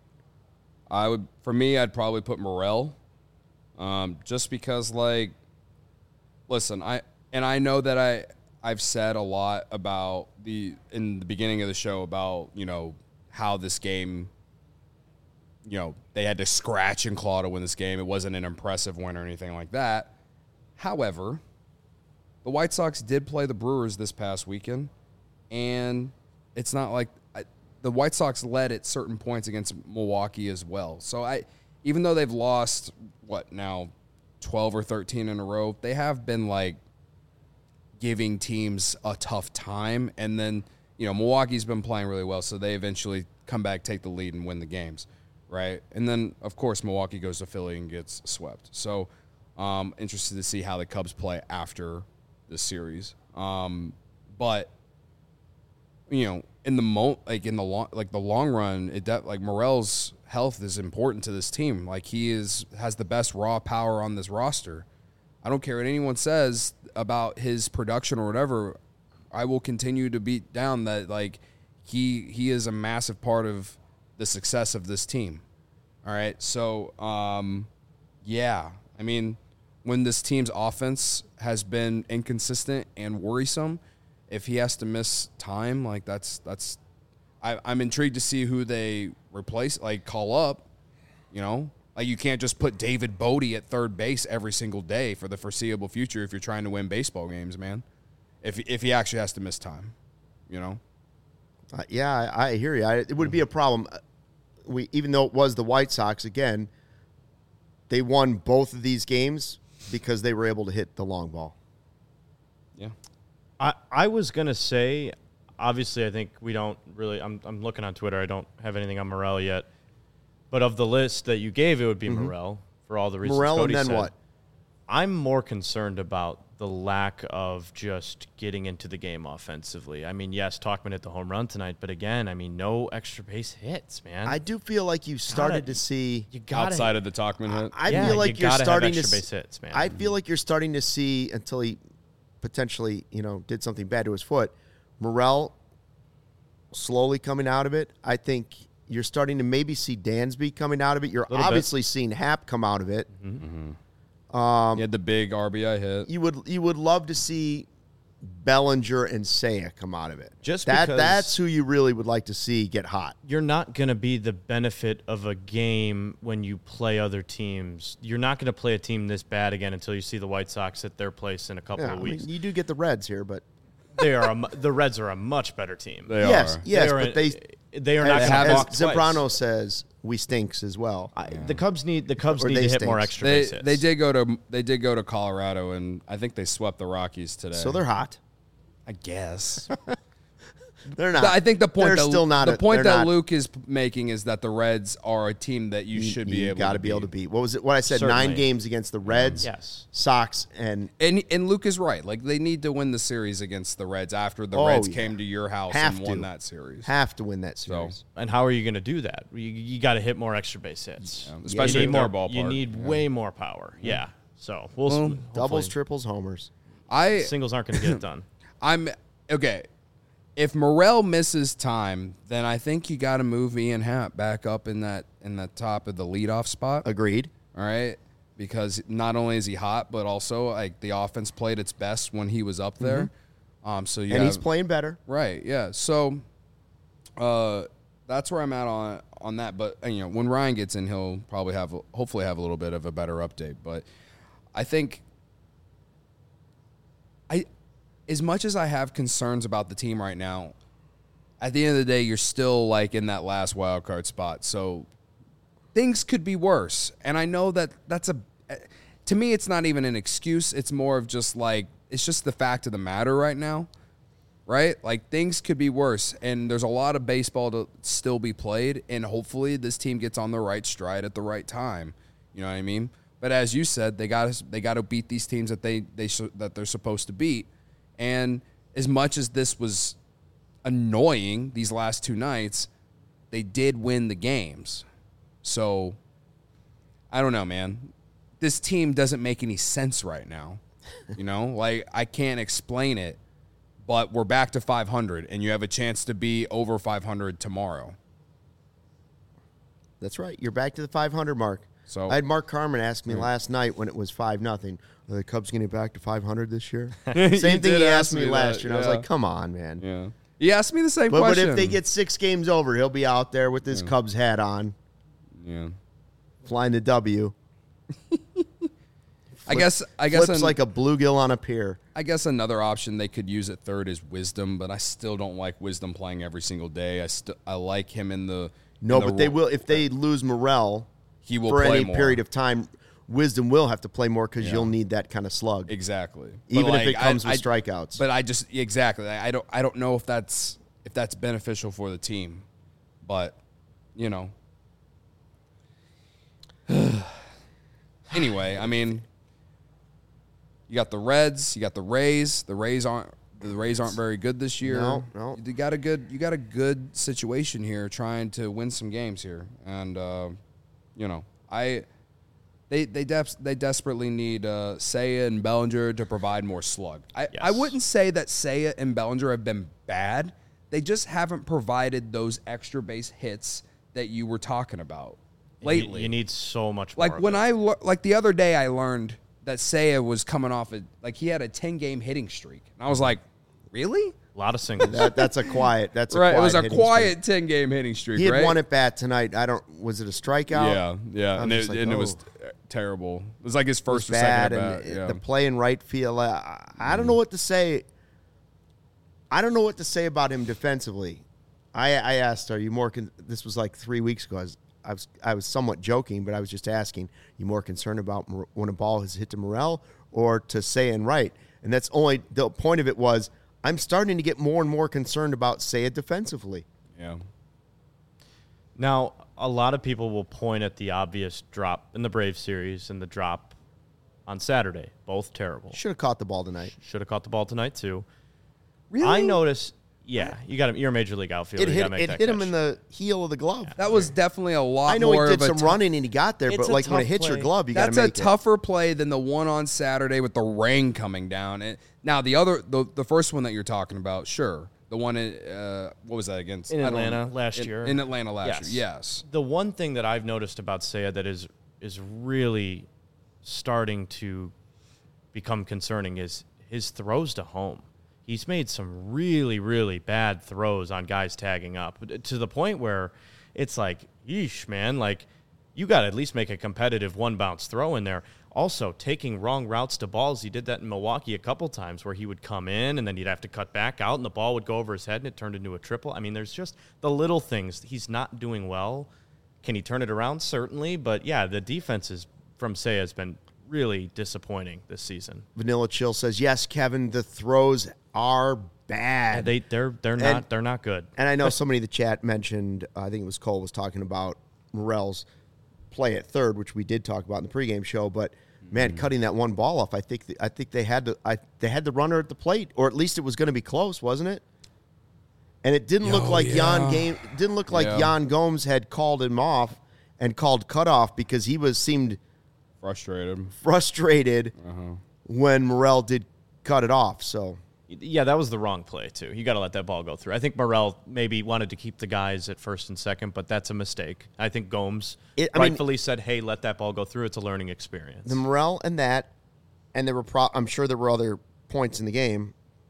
I would, for me, I'd probably put Morel, um, just because, like, listen, I and I know that I I've said a lot about the in the beginning of the show about you know how this game, you know, they had to scratch and claw to win this game. It wasn't an impressive win or anything like that. However, the White Sox did play the Brewers this past weekend, and it's not like I, the White Sox led at certain points against Milwaukee as well. So I, even though they've lost what now, twelve or thirteen in a row, they have been like giving teams a tough time. And then you know Milwaukee's been playing really well, so they eventually come back, take the lead, and win the games, right? And then of course Milwaukee goes to Philly and gets swept. So um, interested to see how the Cubs play after this series. Um, but you know, in the mo like in the long like the long run, it de- like Morel's health is important to this team. Like he is has the best raw power on this roster. I don't care what anyone says about his production or whatever. I will continue to beat down that like he he is a massive part of the success of this team. All right, so um, yeah, I mean, when this team's offense has been inconsistent and worrisome, if he has to miss time, like that's that's, I, I'm intrigued to see who they replace, like call up. You know, like you can't just put David Bodie at third base every single day for the foreseeable future if you're trying to win baseball games, man. If if he actually has to miss time, you know. Uh, yeah, I, I hear you. I, it would be a problem. We even though it was the White Sox again, they won both of these games because they were able to hit the long ball. Yeah. I, I was going to say, obviously, I think we don't really, I'm, I'm looking on Twitter. I don't have anything on Morel yet. But of the list that you gave, it would be mm-hmm. Morel for all the reasons Morel, Cody and then said. what? I'm more concerned about the lack of just getting into the game offensively. I mean, yes, Tauchman hit the home run tonight, but again, I mean, no extra base hits, man. I do feel like you started gotta, to see you gotta, outside of the Tauchman hit. I yeah, feel like you you're starting have to extra base hits, man. I feel like you're starting to see until he potentially, you know, did something bad to his foot. Morel slowly coming out of it. I think you're starting to maybe see Dansby coming out of it. You're obviously bit. seeing Happ come out of it. Mm-hmm. Mm-hmm. Um, he had the big R B I hit. You would you would love to see Bellinger and Seiya come out of it. Just that because that's who you really would like to see get hot. You're not going to be the benefit of a game when you play other teams. You're not going to play a team this bad again until you see the White Sox at their place in a couple yeah, of weeks. I mean, you do get the Reds here, but they are a, the Reds are a much better team. They yes, are. yes, they are but an, they they are as, not going to as walk Zambrano twice. says, we stinks as well. I, the Cubs need the Cubs Or need they to hit stinks. more extra They base hits. they did go to they did go to Colorado, and I think they swept the Rockies today. So they're hot. I guess. They're not. I think the point they're that, still not the a, point that not, Luke is making is that the Reds are a team that you, you should be you able gotta to be beat. able to beat. What was it? What I said? Certainly. Nine games against the Reds, yes. Sox, and And and Luke is right. Like they need to win the series against the Reds after the Oh, Reds yeah. came to your house Have and won to. that series. have to win that series. And how are you going to do that? You, you got to hit more extra base hits. Yeah, especially you in need their more, ballpark. You need Yeah. way more power. Yeah. So we'll Well, s- doubles, hopefully triples, homers. I singles aren't going to get it done. I'm okay. If Morel misses time, then I think you got to move Ian Happ back up in that in the top of the leadoff spot. Agreed. All right, because not only is he hot, but also like the offense played its best when he was up there. Mm-hmm. Um, so you And have, he's playing better. right, yeah. So, uh, that's where I'm at on on that. But uh, you know, when Ryan gets in, he'll probably have hopefully have a little bit of a better update. But I think I. As much as I have concerns about the team right now, at the end of the day, you're still like in that last wild card spot. So things could be worse. And I know that that's a, to me, it's not even an excuse. It's more of just like it's just the fact of the matter right now, right? Like, things could be worse, and there's a lot of baseball to still be played, and hopefully this team gets on the right stride at the right time. You know what I mean? But as you said, they got to they got to beat these teams that they they that they're supposed to beat. And as much as this was annoying these last two nights, they did win the games. So I don't know, man. This team doesn't make any sense right now. You know, like, I can't explain it. But we're back to five hundred, and you have a chance to be over five hundred tomorrow. That's right. You're back to the five hundred mark. So I had Mark Carmen ask me yeah. last night when it was five nothing. Are the Cubs going to get back to five hundred this year? He Same thing did he ask asked me me last that, year, and I was yeah. like, come on, man. Yeah. He asked me the same But, but question. if they get six games over, he'll be out there with his Yeah. Cubs hat on, Yeah. flying the W. I guess I guess Flips an- like a bluegill on a pier. I guess another option they could use at third is Wisdom, but I still don't like Wisdom playing every single day. I still I like him in the No, in the but they ro- will if they lose Morel He will for play any more. period of time. Wisdom will have to play more because Yeah. you'll need that kind of slug, Exactly. even But, if like, it comes I- with I- strikeouts. But I just exactly I I don't I don't know if that's if that's beneficial for the team, but you know. Anyway, I mean, you got the Reds, you got the Rays. The Rays aren't the Rays aren't very good this year. No, no. You got a good you got a good situation here, trying to win some games here, and uh, you know I. They they def- they desperately need uh, Seiya and Bellinger to provide more slug. I, I Yes. wouldn't say that Seiya and Bellinger have been bad. They just haven't provided those extra base hits that you were talking about You- lately. You, need so much more. like of when it. I le- like the other day, I learned that Seiya was coming off a like he had a ten game hitting streak, and I was like, really? a lot of singles. that, that's a quiet. That's a Right? Quiet It was a hitting quiet ten game hitting streak. streak. He had right? one at bat tonight. I don't. Was it a strikeout? Yeah, yeah, I'm and, it, just like, and it was oh. terrible. It was like his It was first or bad, second and at bat. it- Yeah. the play in right field. I, I don't know what to say. I don't know what to say about him defensively. I, I asked, "Are you more?" Con-? This was like three weeks ago. I was, I was, I was somewhat joking, but I was just asking, "You more concerned about Mor- when a ball has hit to Morel or to Seiya and right?" And that's only the point of it was. I'm starting to get more and more concerned about Seiya defensively. yeah. Now, a lot of people will point at the obvious drop in the Braves series and the drop on Saturday. Both terrible. Should have caught the ball tonight. Should have caught the ball tonight too. Really? I noticed. Yeah, you got him. You're a major league outfielder. It you hit, gotta make it that hit him catch. in the heel of the glove. That was definitely a lot I know more he did of a some tou- running and he got there, It's but a like when it tough hits your play. glove, you got That's to a make it. tougher play than the one on Saturday with the rain coming down. And now the other, the, the first one that you're talking about, sure, the one in uh, what was that against In I don't Atlanta know. last in, year. In Atlanta last Yes. year, yes. The one thing that I've noticed about Seiya that is is really starting to become concerning is his throws to home. He's made some really, really bad throws on guys tagging up to the point where it's like, yeesh, man, like you got to at least make a competitive one bounce throw in there. Also, taking wrong routes to balls. He did that in Milwaukee a couple times where he would come in and then he'd have to cut back out and the ball would go over his head and it turned into a triple. I mean, there's just the little things. He's not doing well. Can he turn it around? Certainly. But, yeah, the defense is, from Seiya has been really disappointing this season. Vanilla Chill says, yes, Kevin, the throws are bad. They, they're they're not they're not good. And I know somebody in the chat mentioned, uh, I think it was Cole, was talking about Morel's play at third, which we did talk about in the pregame show. But man, Mm-hmm. cutting that one ball off, I think th- I think they had to I they had the runner at the plate, or at least it was going to be close, wasn't it? And it didn't look Oh, like yeah. Jan game didn't look like Yeah. Jan Gomes had called him off and called cutoff because he was seemed Frustrated. frustrated Uh-huh. when Morel did cut it off. So Yeah, that was the wrong play, too. You got to let that ball go through. I think Morel maybe wanted to keep the guys at first and second, but that's a mistake. I think Gomes It- I mean- rightfully said, hey, let that ball go through. It's a learning experience. the Morel and that, and there were pro- I'm sure there were other points in the game.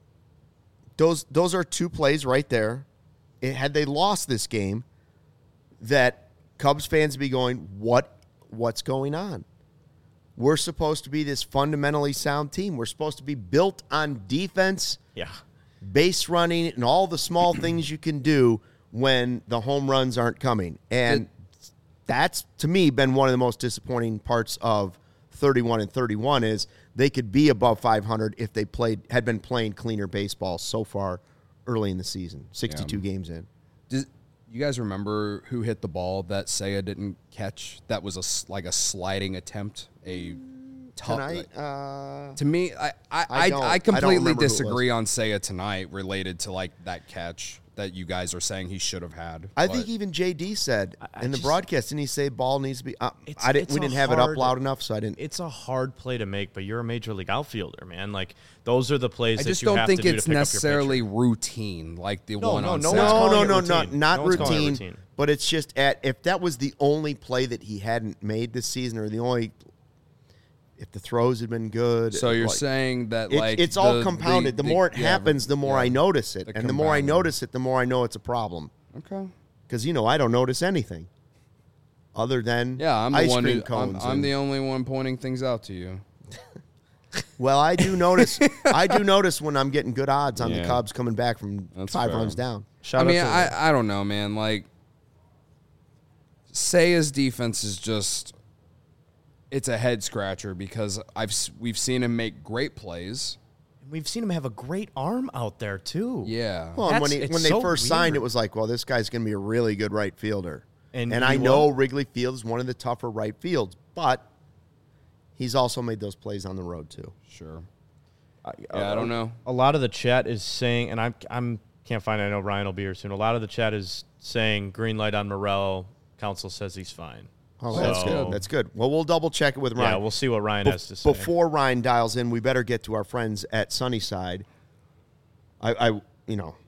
Those those are two plays right there. It, had they lost this game, that Cubs fans would be going, what what's going on? We're supposed to be this fundamentally sound team. We're supposed to be built on defense, Yeah. base running, and all the small things you can do when the home runs aren't coming. And that's, to me, been one of the most disappointing parts of thirty-one and thirty-one is they could be above five hundred if they played had been playing cleaner baseball so far early in the season, sixty-two yeah. games in. Does, you guys remember who hit the ball that Seiya didn't catch? That was a, like a sliding attempt, a tough. Tonight? Uh, to me, I I, I, I, I completely I disagree on Seiya tonight related to like that catch that you guys are saying he should have had. I but. think even J D said I, I in the just, broadcast, didn't he say ball needs to be uh, it's, I didn't, it's we didn't hard, have it up loud enough, so I didn't. It's a hard play to make, but you're a major league outfielder, man. Like, those are the plays I that just you don't have think to do it's to pick necessarily up your routine, like the No, one no, on no Saturday. one's No, calling no, it no, routine. not, not No one's calling it routine, routine. but it's just at if that was the only play that he hadn't made this season or the only if the throws had been good. So you're like, saying that it, like it's all the, compounded. The, the, more it yeah, happens, the more yeah, I notice it. the And the more I compounding. notice it, the more I know it's a problem. Okay. Because, you know, I don't notice anything other than Yeah, I'm the ice one cream who, I'm, cones. I'm and- the only one pointing things out to you. Well, I do notice. I do notice when I'm getting good odds on Yeah. the Cubs coming back from That's five fair. runs down. Shout I mean, out to I, I don't know, man. Like, Seiya's defense is just, it's a head scratcher because I've s- we've seen him make great plays. We've seen him have a great arm out there, too. Yeah. Well, and when, he, That's- when it's they so first signed, weird. it was like, well, this guy's going to be a really good right fielder. And And, he I know was. Wrigley Field is one of the tougher right fields, but he's also made those plays on the road, too. Sure. I, Yeah, I don't know. A lot of the chat is saying, and I'm I'm can't find it. I know Ryan will be here soon. A lot of the chat is saying green light on Morel. Council says he's fine. Oh, that's So- good. That's good. Well, we'll double check it with Ryan. Yeah, we'll see what Ryan Be- has to say. Before Ryan dials in, we better get to our friends at Sunnyside. I, I you know,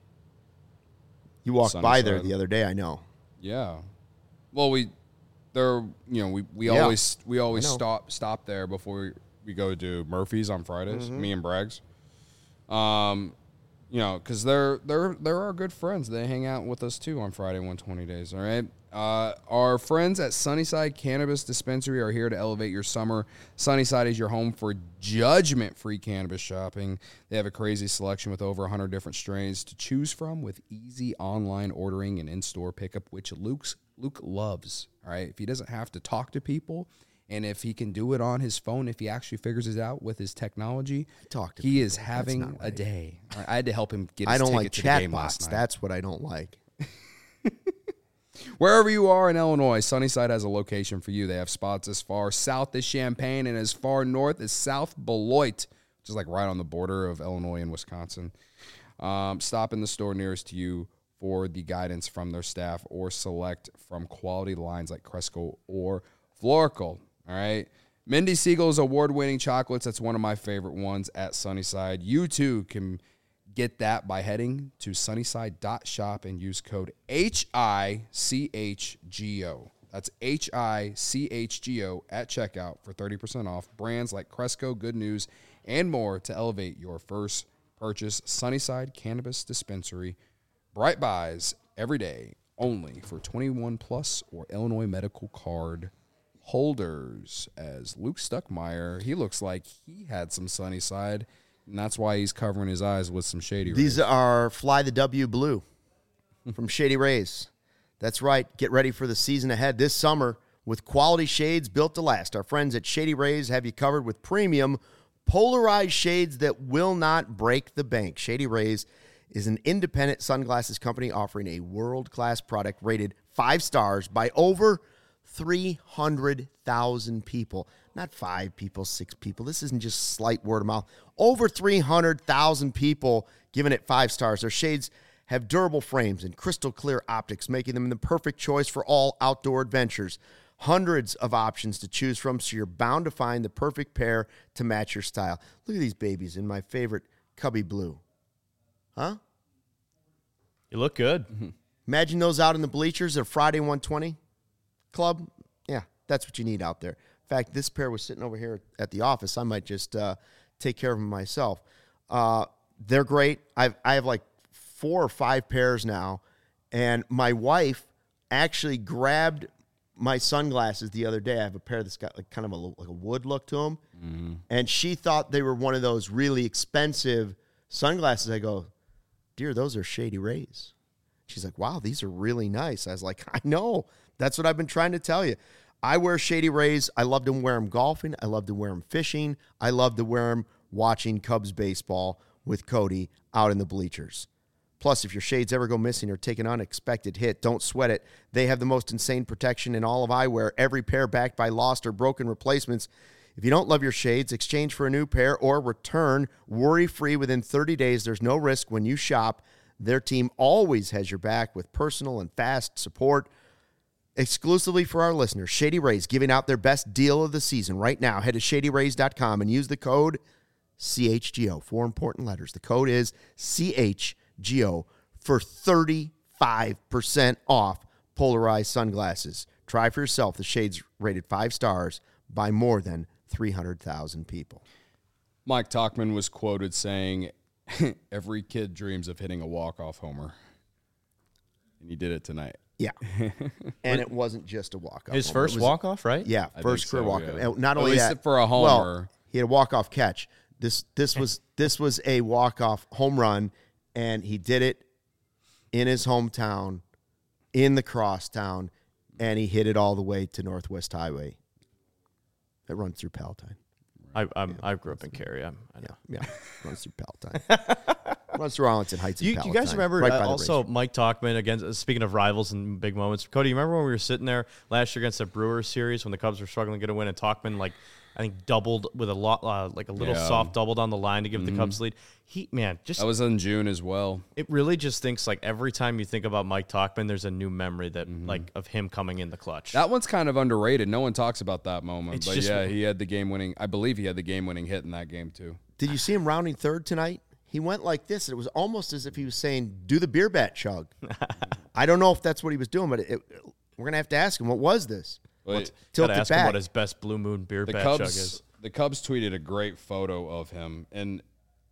you walked by there Sunnyside. the other day. I know. Yeah. Well, we, they're, you know, we, we Yeah. always we always I know. stop stop there before we, we go to Murphy's on Fridays. Mm-hmm. Me and Braggs. Um, you know, because they're they're they're our good friends. They hang out with us too on Friday one twenty days. All right. Uh, our friends at Sunnyside Cannabis Dispensary are here to elevate your summer. Sunnyside is your home for judgment-free cannabis shopping. They have a crazy selection with over one hundred different strains to choose from with easy online ordering and in-store pickup, which Luke's, Luke loves. All right, if he doesn't have to talk to people and if he can do it on his phone, if he actually figures it out with his technology, Talk to he people. is That's having not a right. day. All right, I had to help him get his I don't ticket like to the game chatbots. last night. That's what I don't like. Wherever you are in Illinois, Sunnyside has a location for you. They have spots as far south as Champaign and as far north as South Beloit, which is like right on the border of Illinois and Wisconsin. Um, stop in the store nearest to you for the guidance from their staff or select from quality lines like Cresco or Florical. All right. Mindy Siegel's award-winning chocolates. That's one of my favorite ones at Sunnyside. You too can get that by heading to sunnyside dot shop and use code H I C H G O. That's H I C H G O at checkout for thirty percent off brands like Cresco, Good News, and more to elevate your first purchase. Sunnyside Cannabis Dispensary. Bright buys every day, only for twenty-one plus or Illinois medical card holders. As Luke Stuckmeyer, he looks like he had some Sunnyside, and that's why he's covering his eyes with some Shady Rays. These are Fly the W Blue from Shady Rays. That's right. Get ready for the season ahead this summer with quality shades built to last. Our friends at Shady Rays have you covered with premium polarized shades that will not break the bank. Shady Rays is an independent sunglasses company offering a world-class product rated five stars by over three hundred thousand people. Not five people, six people. This isn't just slight word of mouth. Over three hundred thousand people giving it five stars. Their shades have durable frames and crystal clear optics, making them the perfect choice for all outdoor adventures. Hundreds of options to choose from, so you're bound to find the perfect pair to match your style. Look at these babies in my favorite Cubby Blue. Huh? You look good. Imagine those out in the bleachers at Friday one twenty Club. Yeah, that's what you need out there. In fact, this pair was sitting over here at the office. I might just uh, take care of them myself. Uh, they're great. I've, I have like four or five pairs now, and my wife actually grabbed my sunglasses the other day. I have a pair that's got like kind of a, like a wood look to them, mm-hmm. and she thought they were one of those really expensive sunglasses. I go, dear, those are Shady Rays. She's like, wow, these are really nice. I was like, I know. That's what I've been trying to tell you. I wear Shady Rays. I love to wear them golfing. I love to wear them fishing. I love to wear them watching Cubs baseball with Cody out in the bleachers. Plus, if your shades ever go missing or take an unexpected hit, don't sweat it. They have the most insane protection in all of eyewear, every pair backed by lost or broken replacements. If you don't love your shades, exchange for a new pair or return worry-free within thirty days. There's no risk when you shop. Their team always has your back with personal and fast support. Exclusively for our listeners, Shady Rays giving out their best deal of the season right now. Head to shady rays dot com and use the code C H G O. Four important letters. The code is C H G O for thirty-five percent off polarized sunglasses. Try for yourself. The shades rated five stars by more than three hundred thousand people. Mike Tauchman was quoted saying, every kid dreams of hitting a walk-off homer. And he did it tonight. Yeah. And it wasn't just a walk-off. His homer. first was, walk-off, right? Yeah, I first think career so, walk-off. yeah. Not At only least that, for a homer. Well, he had a walk-off catch. This this was this was a walk-off home run, and he did it in his hometown, in the crosstown, and he hit it all the way to Northwest Highway. That runs through Palatine. I I'm, I grew up in Cary. I'm, I know. Yeah, yeah, runs through Palatine. Runs through Arlington Heights. And You, you Palatine, guys remember right uh, by the also race. Mike Tauchman against uh, speaking of rivals and big moments. Cody, you remember when we were sitting there last year against the Brewers series when the Cubs were struggling to get a win and Tauchman like I think doubled with a lot uh, like a little Yeah. soft double down the line to give Mm-hmm. the Cubs lead. He man, just That was in June as well. it really just thinks like every time you think about Mike Tauchman, there's a new memory that Mm-hmm. like of him coming in the clutch. That one's kind of underrated. No one talks about that moment. It's but just- yeah, he had the game-winning. I believe he had the game-winning hit in that game too. Did you see him rounding third tonight? He went like this. And it was almost as if he was saying, do the beer bat chug. I don't know if that's what he was doing, but it, it, we're going to have to ask him, what was this? But Tilt Gotta it ask him back. what his best Blue Moon beer the bat chug Cubs, is. the Cubs tweeted a great photo of him, and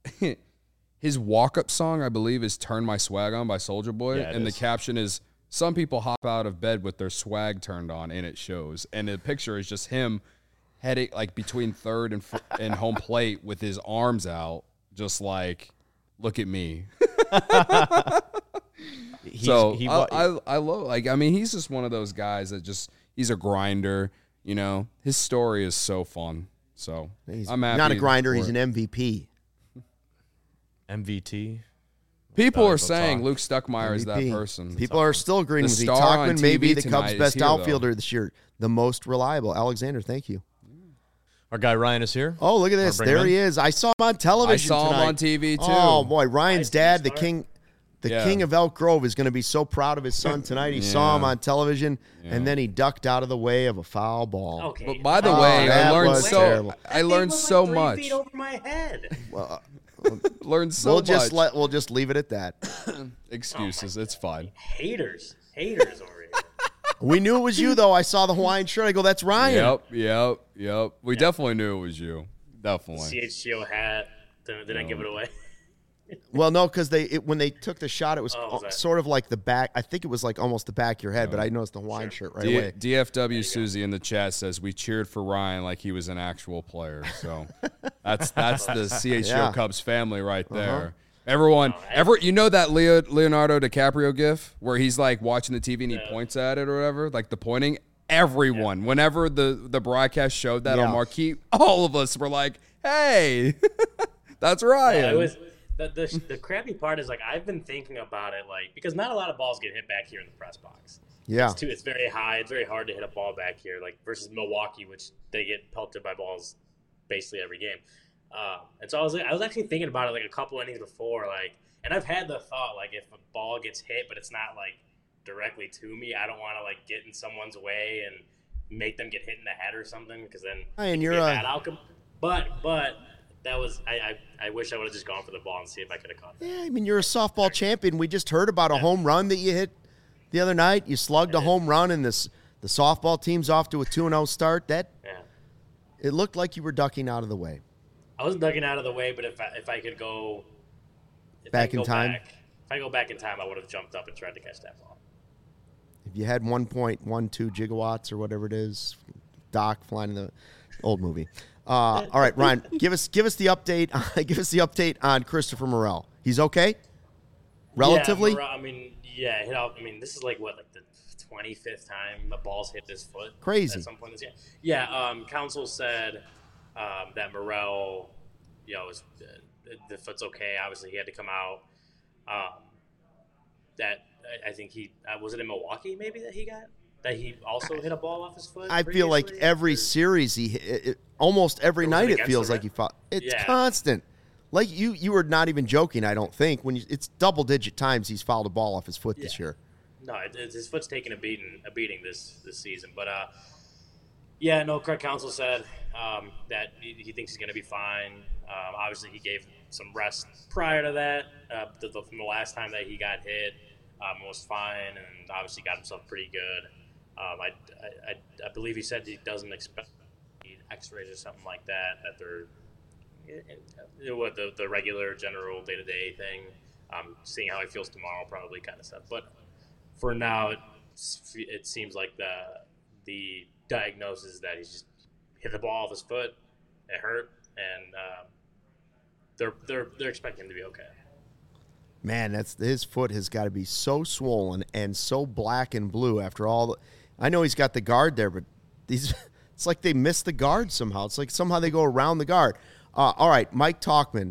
his walk-up song, I believe, is "Turn My Swag On" by Soulja Boy, Yeah, it and is. the caption is, "Some people hop out of bed with their swag turned on," and it shows. And the picture is just him heading like between third and fr- and home plate with his arms out, just like, look at me. He's, so he, I, wa- I, I love, like, I mean, he's just one of those guys that just, he's a grinder, you know, his story is so fun. So He's I'm happy not a grinder. for He's it. an M V P. M V T. People are valuable saying talk. Luke Stuckmeyer is that M V P. person. People are still agreeing The with me. star on Tauchman T may V be the tonight Cubs' is best here, though. outfielder this year. The most reliable. Alexander, thank you. Our guy Ryan is here. Oh, look at this. bring him There in? he is. I saw him on television I saw him tonight. on T V, too. Oh, boy. Ryan's Nice, dad, the smart. king the Yeah. king of Elk Grove, is going to be so proud of his son tonight. He saw him Yeah. on television, and then he ducked out of the way of a foul ball. Okay. But by the Oh, way, I that learned was so terrible. I learned was so like three much. feet over my head. Well, Learned so we'll much. just let we'll just leave it at that. Excuses, it's fine. Haters. Haters over here. We knew it was you, though. I saw the Hawaiian shirt. I go, that's Ryan. Yep, yep, yep. We definitely knew it was you. Definitely. C H G O hat. Did, did I give it away? Well, no, because they it, when they took the shot, it was Oh, was that- sort of like the back. I think it was like almost the back of your head, but I noticed the Hawaiian shirt right D- away. D F W Susie in the chat says we cheered for Ryan like he was an actual player. So that's that's the C H G O Yeah. Cubs family right there. Everyone, ever you know that Leo, Leonardo DiCaprio gif where he's like watching the T V and he points at it or whatever, like the pointing. Everyone, whenever the the broadcast showed that Yeah. on marquee, all of us were like, "Hey, that's Ryan." Yeah, it was the, the the crappy part is like I've been thinking about it like because not a lot of balls get hit back here in the press box. Yeah, It's too it's very high. It's very hard to hit a ball back here like versus Milwaukee, which they get pelted by balls basically every game. Uh, and so I was I was actually thinking about it like a couple innings before like, and I've had the thought like if a ball gets hit but it's not like directly to me, I don't want to like get in someone's way and make them get hit in the head or something because then Hey, and it could you're be a a- bad outcome. But but that was I, I I wish I would have just gone for the ball and see if I could have caught it. yeah. I mean, you're a softball champion. We just heard about a home run that you hit the other night. You slugged a home run, and this the softball team's off to a two and zero start. That Yeah. it looked like you were ducking out of the way. I was ducking out of the way, but if I, if I could go if Back I could in go time? back, if I go back in time, I would have jumped up and tried to catch that ball. If you had one point one two gigawatts or whatever it is, Doc flying in the old movie. Uh, all right, Ryan, give us give us the update. give us the update on Christopher Morel. He's okay, relatively. Yeah, Morel- I mean, yeah. You know, I mean, this is like what, like the twenty-fifth time the ball's hit his foot. Crazy. At some point this year. Yeah, um, counsel said um, that Morel, you know, was, uh, the foot's okay. Obviously, he had to come out. Um, that I, I think he uh, was it in Milwaukee maybe that he got that he also hit a ball off his foot. I feel like every or, series he it, it, almost every Or was night it it feels against the like he fought. It's Yeah. constant. Like you, you were not even joking. I don't think when you, it's double digit times he's fouled a ball off his foot this Yeah. year. No, it, it's, his foot's taking a beating, a beating this this season. But uh, yeah, no. Craig Counsell said um, that he, he thinks he's going to be fine. Um, obviously, he gave some rest prior to that. Uh, the, the, from the last time that he got hit, um, was fine, and obviously got himself pretty good. Um, I, I, I, I believe he said he doesn't expect X-rays or something like that. That they're you know, what the the regular general day to day thing. Um, seeing how he feels tomorrow, probably kind of stuff. But for now, it's, it seems like the the diagnosis is that he's just hit the ball off his foot. It hurt, and um, they're they're they're expecting him to be okay. Man, that's his foot has got to be so swollen and so black and blue after all. The, I know he's got the guard there, but these it's like they missed the guard somehow. It's like somehow they go around the guard. Uh, all right, Mike Tauchman.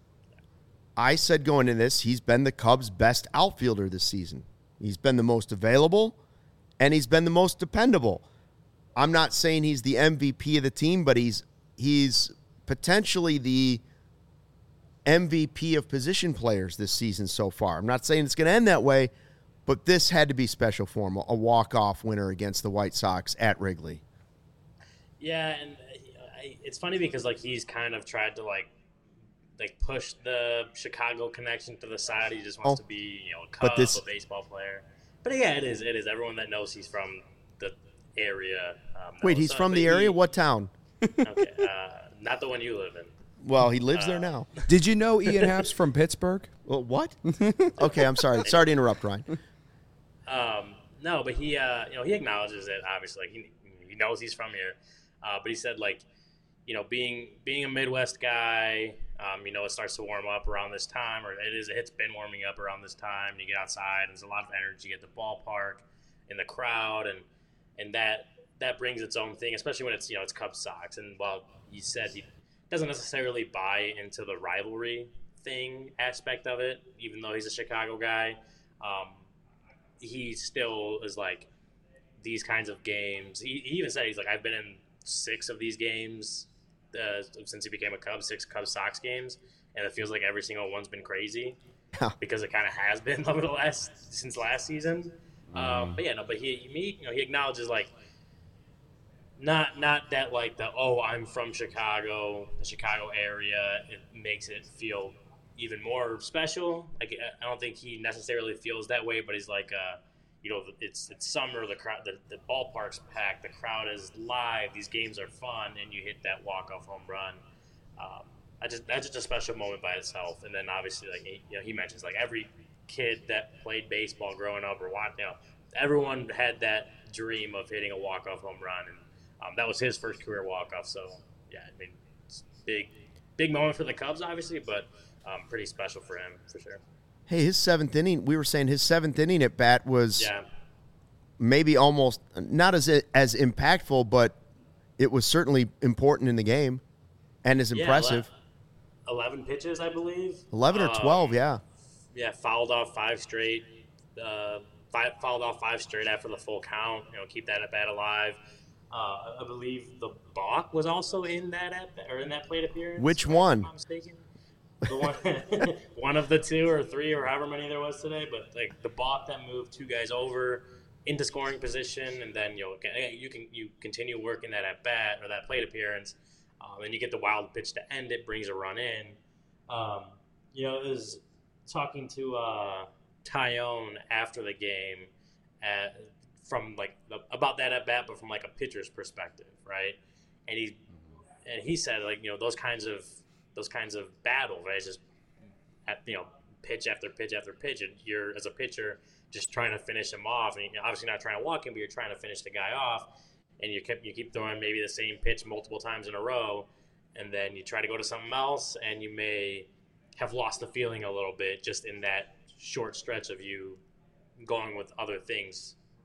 I said going into this, he's been the Cubs' best outfielder this season. He's been the most available, and he's been the most dependable. I'm not saying he's the M V P of the team, but he's he's potentially the M V P of position players this season so far. I'm not saying it's going to end that way, but this had to be special for him, a walk-off winner against the White Sox at Wrigley. Yeah, and I, it's funny because like he's kind of tried to like like push the Chicago connection to the side. He just wants Oh, to be, you know, a Cub, this- a baseball player. But yeah, it is. It is. Everyone that knows he's from the area. Um, Wait, knows. he's So, from but the he- area? What town? Okay, uh, not the one you live in. Well, he lives Uh, there now. Did you know Ian Happ's from Pittsburgh? Well, what? Okay, I'm sorry. Sorry to interrupt, Ryan. Um, no, but he, uh, you know, he acknowledges it. Obviously, like he he knows he's from here. Uh, but he said, like, you know, being being a Midwest guy, um, you know, it starts to warm up around this time, or it is. It's been warming up around this time. You get outside, and there's a lot of energy at the ballpark, in the crowd, and and that that brings its own thing, especially when it's you know it's Cubs Sox. And while he said he doesn't necessarily buy into the rivalry thing aspect of it, even though he's a Chicago guy. Um, he still is like these kinds of games. He, he even said he's like I've been in six of these games uh, since he became a Cub, six Cubs Sox games, and it feels like every single one's been crazy Yeah. because it kind of has been over the last since last season. Um, but yeah, no, but he he you know he acknowledges like not not that like the oh I'm from Chicago, the Chicago area. It makes it feel even more special. Like I don't think he necessarily feels that way, but he's like, uh, you know, it's it's summer. The crowd, the, the ballpark's packed. The crowd is live. These games are fun, and you hit that walk off home run. Um, I just that's just a special moment by itself. And then obviously, like he, you know, he mentions like every kid that played baseball growing up or watched, you know, everyone had that dream of hitting a walk off home run, and um, that was his first career walk off. So yeah, I mean, it's big big moment for the Cubs, obviously, but. Um, pretty special for him, for sure. Hey, his seventh inning, we were saying his seventh inning at bat was Yeah. maybe almost not as as impactful, but it was certainly important in the game and as Yeah, impressive. ele- eleven pitches, I believe. eleven or Um, twelve, yeah. Yeah, fouled off five straight. Uh, five, fouled off five straight after the full count. You know, keep that at bat alive. Uh, I believe the balk was also in that at or in that plate appearance. Which if one? I'm not mistaken. The one, one of the two or three or however many there was today, but like the balk that moved two guys over into scoring position, and then you know you can you continue working that at bat or that plate appearance, um, and you get the wild pitch to end it, brings a run in. Um, you know, it was talking to uh, Tyone after the game, at, from like the, about that at bat, but from like a pitcher's perspective, right? And he and he said like you know those kinds of those kinds of battles, right? It's just at, you know pitch after pitch after pitch, and you're as a pitcher just trying to finish him off, and you're obviously not trying to walk him, but you're trying to finish the guy off, and you keep you keep throwing maybe the same pitch multiple times in a row, and then you try to go to something else, and you may have lost the feeling a little bit just in that short stretch of you going with other things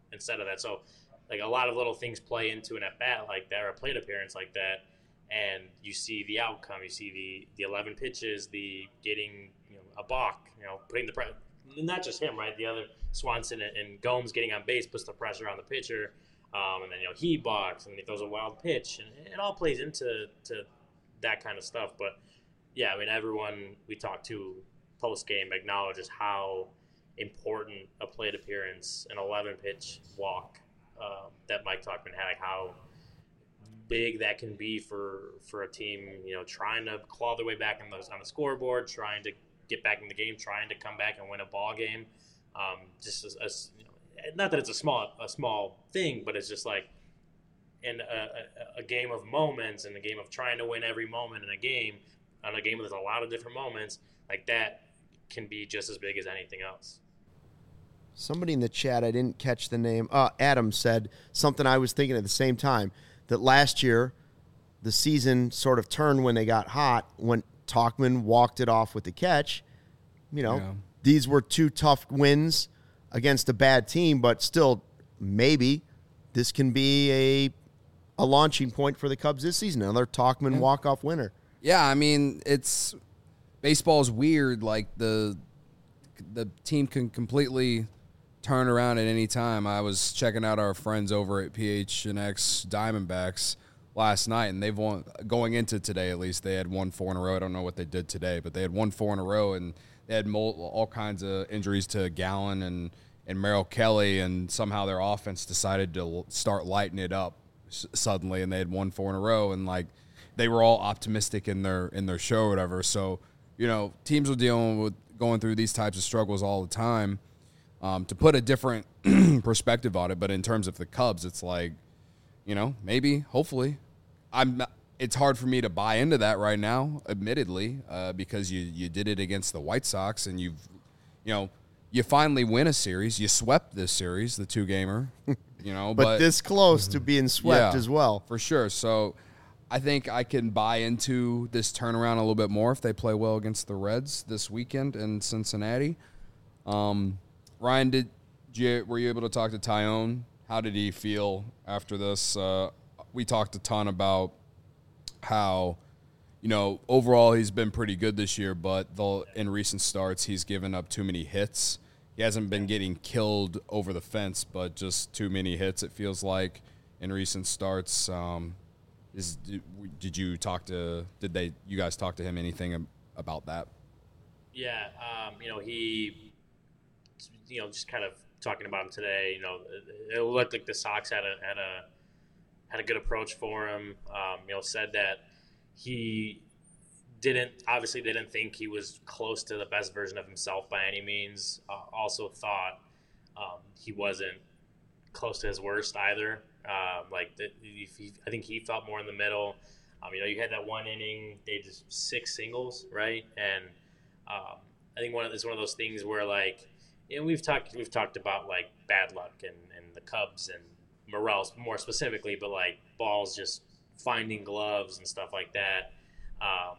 instead of that. So like a lot of little things play into an at bat like that or a plate appearance like that, and you see the outcome. You see the the eleven pitches, the getting you know a balk, you know putting the pressure. Not just him, right? The other Swanson and, and Gomes getting on base puts the pressure on the pitcher, um, and then you know he balks and he throws a wild pitch, and it all plays into to that kind of stuff. But yeah, I mean everyone we talk to post game acknowledges how important a plate appearance, an eleven pitch walk uh, that Mike Tauchman had, like how big that can be for for a team, you know, trying to claw their way back on the on the scoreboard, trying to get back in the game, trying to come back and win a ball game. Um, just as, as you know, not that it's a small a small thing, but it's just like in a, a, a game of moments and a game of trying to win every moment in a game, on a game with a lot of different moments, like that can be just as big as anything else. Somebody in the chat, I didn't catch the name, uh, Adam said something I was thinking at the same time, that last year the season sort of turned when they got hot, when Tauchman walked it off with the catch. You know, yeah. These were two tough wins against a bad team, but still maybe this can be a a launching point for the Cubs this season, another Tauchman yeah. walk-off winner. Yeah, I mean, it's baseball's weird. Like the the team can completely turn around at any time. I was checking out our friends over at P H N X Diamondbacks last night, and they've won, going into today at least, they had won four in a row. I don't know what they did today, but they had won four in a row, and they had all kinds of injuries to Gallen and, and Merrill Kelly, and somehow their offense decided to start lighting it up suddenly, and they had won four in a row, and like they were all optimistic in their in their show or whatever. So, you know, teams are dealing with going through these types of struggles all the time. Um, to put a different perspective on it, but in terms of the Cubs, it's like, you know, maybe, hopefully. I'm not, it's hard for me to buy into that right now, admittedly, uh, because you, you did it against the White Sox, and you've, you know, you finally win a series. You swept this series, the two-gamer, you know. but, but this close to being swept yeah, as well. For sure. So I think I can buy into this turnaround a little bit more if they play well against the Reds this weekend in Cincinnati. Um Ryan, did you, were you able to talk to Taillon? How did he feel after this? Uh, we talked a ton about how, you know, overall he's been pretty good this year, but the, in recent starts he's given up too many hits. He hasn't been getting killed over the fence, but just too many hits, it feels like, in recent starts. Um, is did you talk to? Did they? You guys talk to him anything about that? Yeah, um, you know he. You know, just kind of talking about him today. You know, it looked like the Sox had a had a had a good approach for him. Um, you know, said that he didn't obviously didn't think he was close to the best version of himself by any means. Uh, also thought um, he wasn't close to his worst either. Um, like the, he, I think he felt more in the middle. Um, you know, you had that one inning, they just six singles, right? And um, I think one of, it's one of those things where like. And we've talked we've talked about like bad luck and, and the Cubs and Morels more specifically, but like balls just finding gloves and stuff like that, um,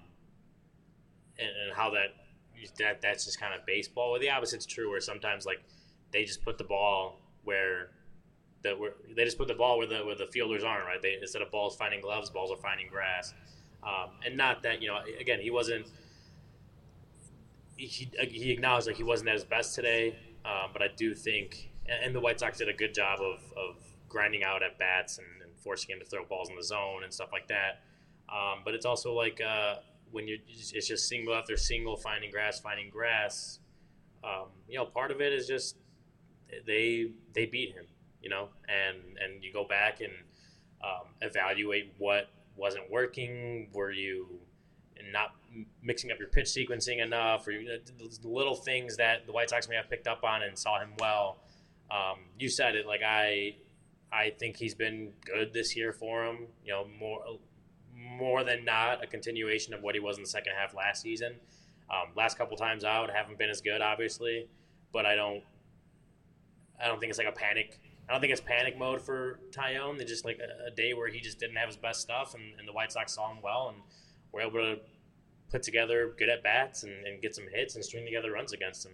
and, and how that that that's just kind of baseball. Well, the opposite's true, where sometimes like they just put the ball where the where they just put the ball where the where the fielders aren't, right? They instead of balls finding gloves, balls are finding grass, um, and not that you know again he wasn't. He, he acknowledged like he wasn't at his best today, um, but I do think, and the White Sox did a good job of, of grinding out at bats and, and forcing him to throw balls in the zone and stuff like that. Um, but it's also like uh, when you're, it's just single after single, finding grass, finding grass. Um, you know, part of it is just they they beat him, you know, and and you go back and um, evaluate what wasn't working. Were you not mixing up your pitch sequencing enough, or the little things that the White Sox may have picked up on and saw him well. Um, you said it, like I, I think he's been good this year for him. You know, more, more than not, a continuation of what he was in the second half last season. Um, last couple times out haven't been as good, obviously, but I don't, I don't think it's like a panic. I don't think it's panic mode for Taillon. It's just like a, a day where he just didn't have his best stuff, and, and the White Sox saw him well and were able to put together good at bats and, and get some hits and string together runs against him.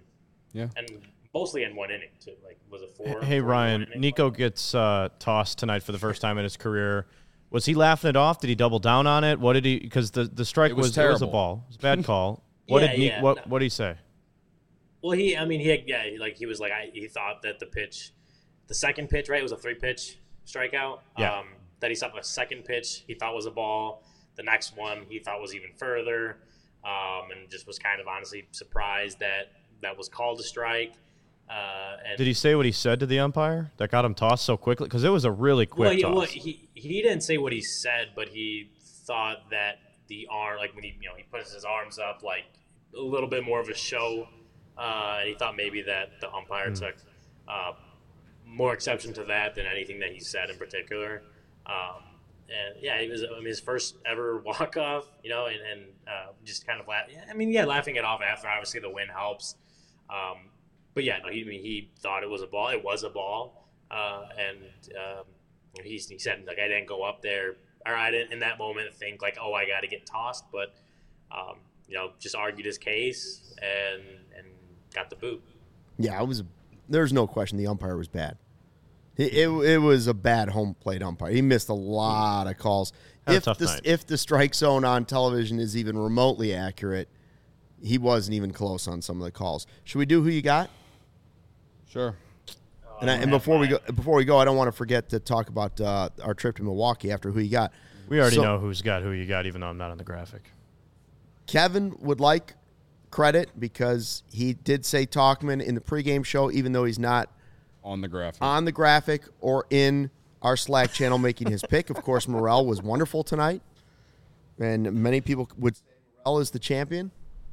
Yeah. And mostly in one inning too. Like was it four? Hey four Ryan, Nico gets uh, tossed tonight for the first time in his career. Was he laughing it off? Did he double down on it? What did he? Because the, the strike It was was, it was a terrible. ball. It was a bad call. What Yeah, did Ni- yeah, what no. what did he say? Well, he, I mean, he, yeah, he, like he was like, I, he thought that the pitch, the second pitch, right, it was a three pitch strikeout. Yeah. Um, that he saw the second pitch he thought was a ball. The next one he thought was even further, um, and just was kind of honestly surprised that that was called a strike. Uh, and Did he say what he said to the umpire that got him tossed so quickly? Because it was a really quick well, he, toss. well, he he didn't say what he said, but he thought that the arm, like when he you know he puts his arms up, like a little bit more of a show, uh, and he thought maybe that the umpire Mm. took uh, more exception to that than anything that he said in particular. Um, and yeah, it was I mean, his first ever walk off, you know, and, and uh, just kind of laugh. I mean, yeah, laughing it off after obviously the win helps. Um, but yeah, no, he I mean, he thought it was a ball. It was a ball, uh, and um, he he said like I didn't go up there, or I didn't in that moment think like oh I got to get tossed, but um, you know just argued his case and and got the boot. Yeah, it was. There's no question the umpire was bad. It, it, it was a bad home plate umpire. He missed a lot of calls. Had a If tough the, night. if the strike zone on television is even remotely accurate, he wasn't even close on some of the calls. Should we do who you got? Sure. And, I, and before we go, before we go, I don't want to forget to talk about uh, our trip to Milwaukee after who you got. We already So- know who's got who you got, even though I'm not on the graphic. Kevin would like credit because he did say Talkman in the pregame show, even though he's not On the graphic. on the graphic or in our Slack channel making his pick. Of course, Morel was wonderful tonight, and many people would say Morel is the champion.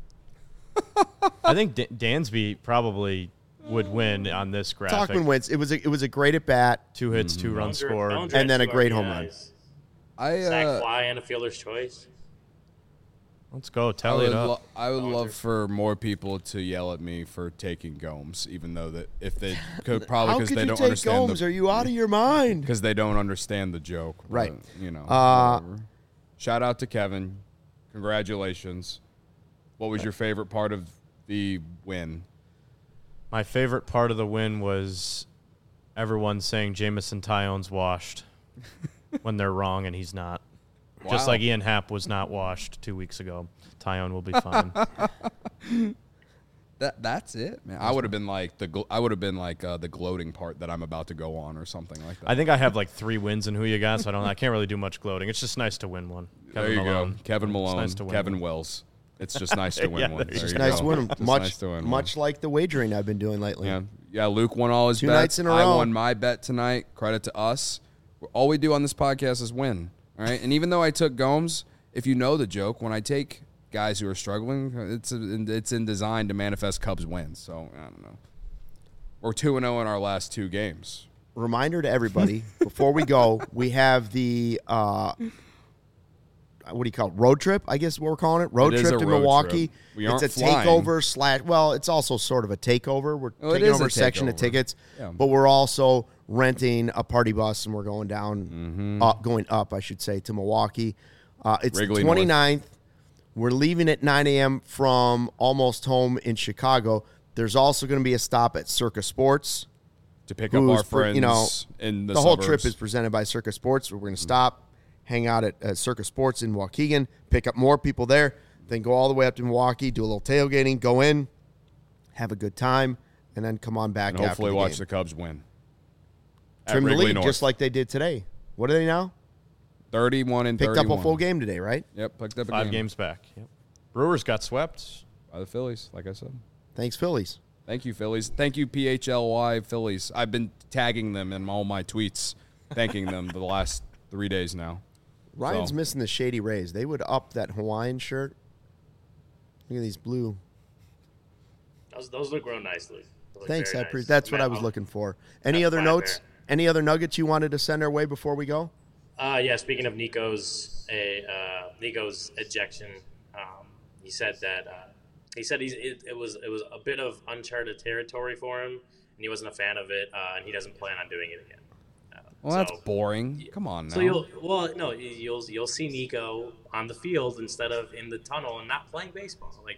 I think D- Dansby probably would win on this graphic. Talkman wins. It was a, it was a great at bat, Two hits, two runs Bellinger- scored. Bellinger And then had a two great R B home run. Is. I Sack uh, fly and a fielder's choice. Let's go. I Tally would, it up. lo- I would Bellinger. love for more people to yell at me for taking Gomes, even though that if they could probably How because could they you don't take understand Gomes? the, Are you out of your mind? because they don't understand the joke. Right. But, you know. Uh, whatever. Shout out to Kevin. Congratulations. What was your favorite part of the win? My favorite part of the win was everyone saying Jamison Tyone's washed when they're wrong and he's not. Just Wow. like Ian Happ was not washed two weeks ago. Tyone will be fine. That that's it, man. I would have been like the gl- I would have been like uh, the gloating part that I'm about to go on or something like that. I think I have like three wins in who you got, so I don't. I can't really do much gloating. It's just nice to win one. there you Malone. go, Kevin It's Malone, nice to win Kevin one. Wells. It's just nice to win Yeah, one. there you There It's you nice go. to win. Just Much, nice to win much like the wagering I've been doing lately. one. Yeah, yeah. Luke won all his Two bets. nights in a I row. won my bet tonight. Credit to us. All we do on this podcast is win. All right, and even though I took Gomes, if you know the joke, when I take guys who are struggling, it's a, it's in design to manifest Cubs wins. So I don't know. We're two and zero in our last two games. Reminder to everybody before we go, we have the uh, what do you call it? Road trip? I guess what we're calling it. Road It is trip a to road Milwaukee. trip. We it's aren't a flying. takeover slash. Well, it's also sort of a takeover. We're Well, it taking is over a a section of takeover. tickets, Yeah. but we're also renting a party bus and we're going down, Mm-hmm. uh, going up, I should say, to Milwaukee. Uh, it's Wrigley the North. twenty-ninth. We're leaving at nine a.m. from almost home in Chicago. There's also going to be a stop at Circus Sports. To pick up Who's our for- friends you know, in the, The whole suburbs. trip is presented by Circus Sports. We're going to stop, hang out at uh, Circus Sports in Waukegan, pick up more people there, then go all the way up to Milwaukee, do a little tailgating, go in, have a good time, and then come on back and after hopefully the watch game. the Cubs win. At Trim the Wrigley lead North. just like they did today. What are they now? thirty-one and Picked thirty-one. up a full game today, right? Yep, picked up a Five game games back. Yep. Brewers got swept. by the Phillies, like I said. Thanks, Phillies. Thank you, Phillies. Thank you, P H L Y Phillies. I've been tagging them in all my tweets, thanking them the last three days now. Ryan's So- missing the Shady Rays. They would up that Hawaiian shirt. Look at these blue. Those, those look real nicely. Those look Thanks, very I appre- nice. That's what Matt, I was I'll- looking for. Any That's other fine notes? there. Any other nuggets you wanted to send our way before we go? Uh, yeah, speaking of Nico's a uh, Nico's ejection, um, he said that uh, he said he's, it, it was it was a bit of uncharted territory for him, and he wasn't a fan of it, uh, and he doesn't plan on doing it again. Uh, Well, that's so- boring. Come on now. So you'll well no you'll you'll see Nico on the field instead of in the tunnel and not playing baseball. Like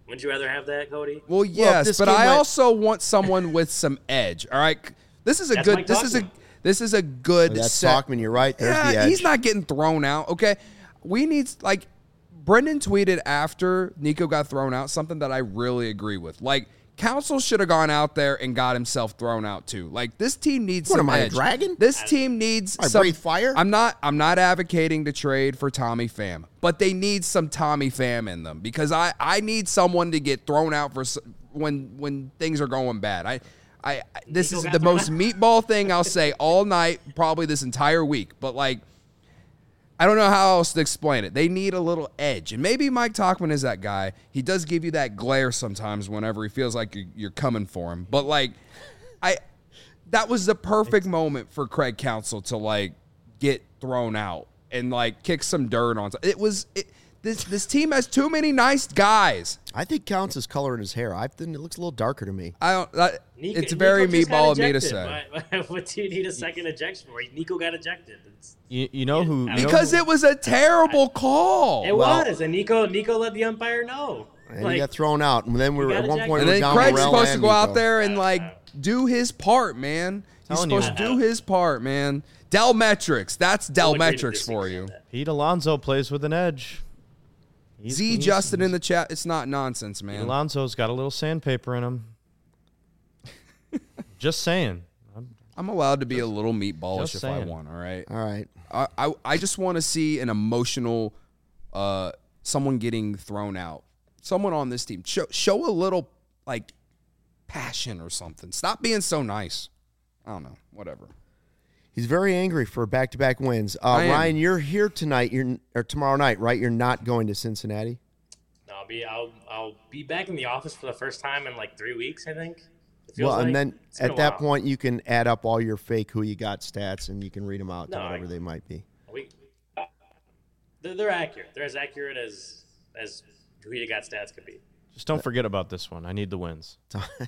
Wouldn't you rather have that, Cody? Well, yes, this but game I went- also want someone with some edge. All right, this is a That's good. Mike This is a. Talkman. This is a good. That's set. Talkman. You're right. There's Yeah, the edge. he's not getting thrown out. Okay, we need like Brendan tweeted after Nico got thrown out something that I really agree with. Like Council should have gone out there and got himself thrown out too. Like this team needs What some am I, a edge. dragon? This team needs I some breathe fire? I'm not. I'm not advocating to trade for Tommy Pham, but they need some Tommy Pham in them because I I need someone to get thrown out for s- when when things are going bad. I. I, this Nico is got the thrown most out. meatball thing I'll say all night, probably this entire week. But like, I don't know how else to explain it. They need a little edge, and maybe Mike Talkman is that guy. He does give you that glare sometimes whenever he feels like you're, you're coming for him. But like, I that was the perfect moment for Craig Counsell to like get thrown out and like kick some dirt on. It was it, this this team has too many nice guys. I think counts his color in his hair. I think it looks a little darker to me. I don't. That, Nico, it's very Nico just got meatball of me to ejected. say. Why- What do you need a second ejection for? Nico got ejected. It's, You, you know who? You know Because who- it was a terrible call. it Well- was, and Nico Nico let the umpire know. And Like, he got thrown out. And then we were got at one ejected. point And we were then down Craig's Morel supposed to and go out Nico. there and like do his part, man. He's Telling you. supposed to do his part, man. Dell Metrics. That's Dell I'll agree to Metrics for disagree you. on that. Pete Alonso plays with an edge. He's- Z he's- Justin in the chat. It's not nonsense, Pete man. Alonso's got a little sandpaper in him. Just saying. I'm- I'm allowed to be a little meatballish just if I saying. want. All right. All right. I I, I just want to see an emotional, uh, someone getting thrown out. Someone on this team show show a little like passion or something. Stop being so nice. I don't know. Whatever. He's very angry for back-to-back wins. Uh, I am. Ryan, you're here tonight. You're or tomorrow night, right? You're not going to Cincinnati. No, I'll be I'll I'll be back in the office for the first time in like three weeks, I think. It feels Well, like. and then It's been at a that while. point, you can add up all your fake who you got stats, and you can read them out to No, I- whatever they might be. we they're, they're accurate. They're as accurate as as who you got stats could be. Just don't forget about this one. I need the wins.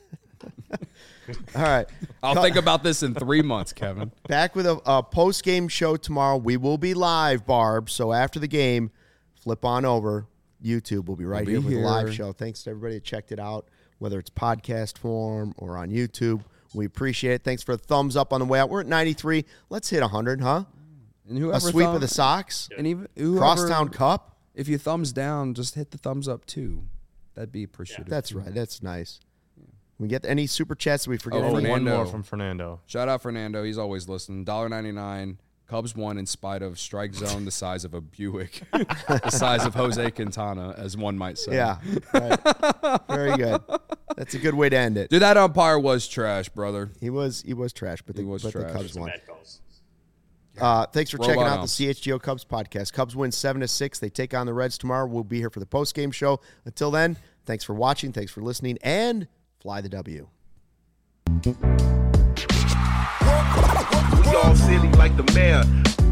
All right. I'll think about this in three months, Kevin. Back with a, a post-game show tomorrow. We will be live, Barb. So after the game, flip on over. YouTube will be right be here with a live here. show. Thanks to everybody that checked it out, whether it's podcast form or on YouTube. We appreciate it. Thanks for the thumbs up on the way out. We're at ninety-three. Let's hit one hundred, huh? And whoever A sweep thumb- of the Sox. and even whoever, Crosstown Cup. If you thumbs down, just hit the thumbs up too. That'd be appreciated. That's right. That's nice. We get any super chats that we forget? Oh, Oh, any? one Fernando. more from Fernando. Shout out Fernando. He's always listening. one dollar ninety-nine. Cubs won in spite of strike zone the size of a Buick, the size of Jose Quintana, as one might say. Yeah. Right. Very good. That's a good way to end it. Dude, that umpire was trash, brother. He was he was trash, but the, He was but the trash. Cubs Some won. bad calls. Uh, thanks for Robot checking out the umps. C H G O Cubs podcast. Cubs win seven to six. They take on the Reds tomorrow. We'll be here for the post game show. Until then, thanks for watching. Thanks for listening, and fly the W. We all silly like the mayor.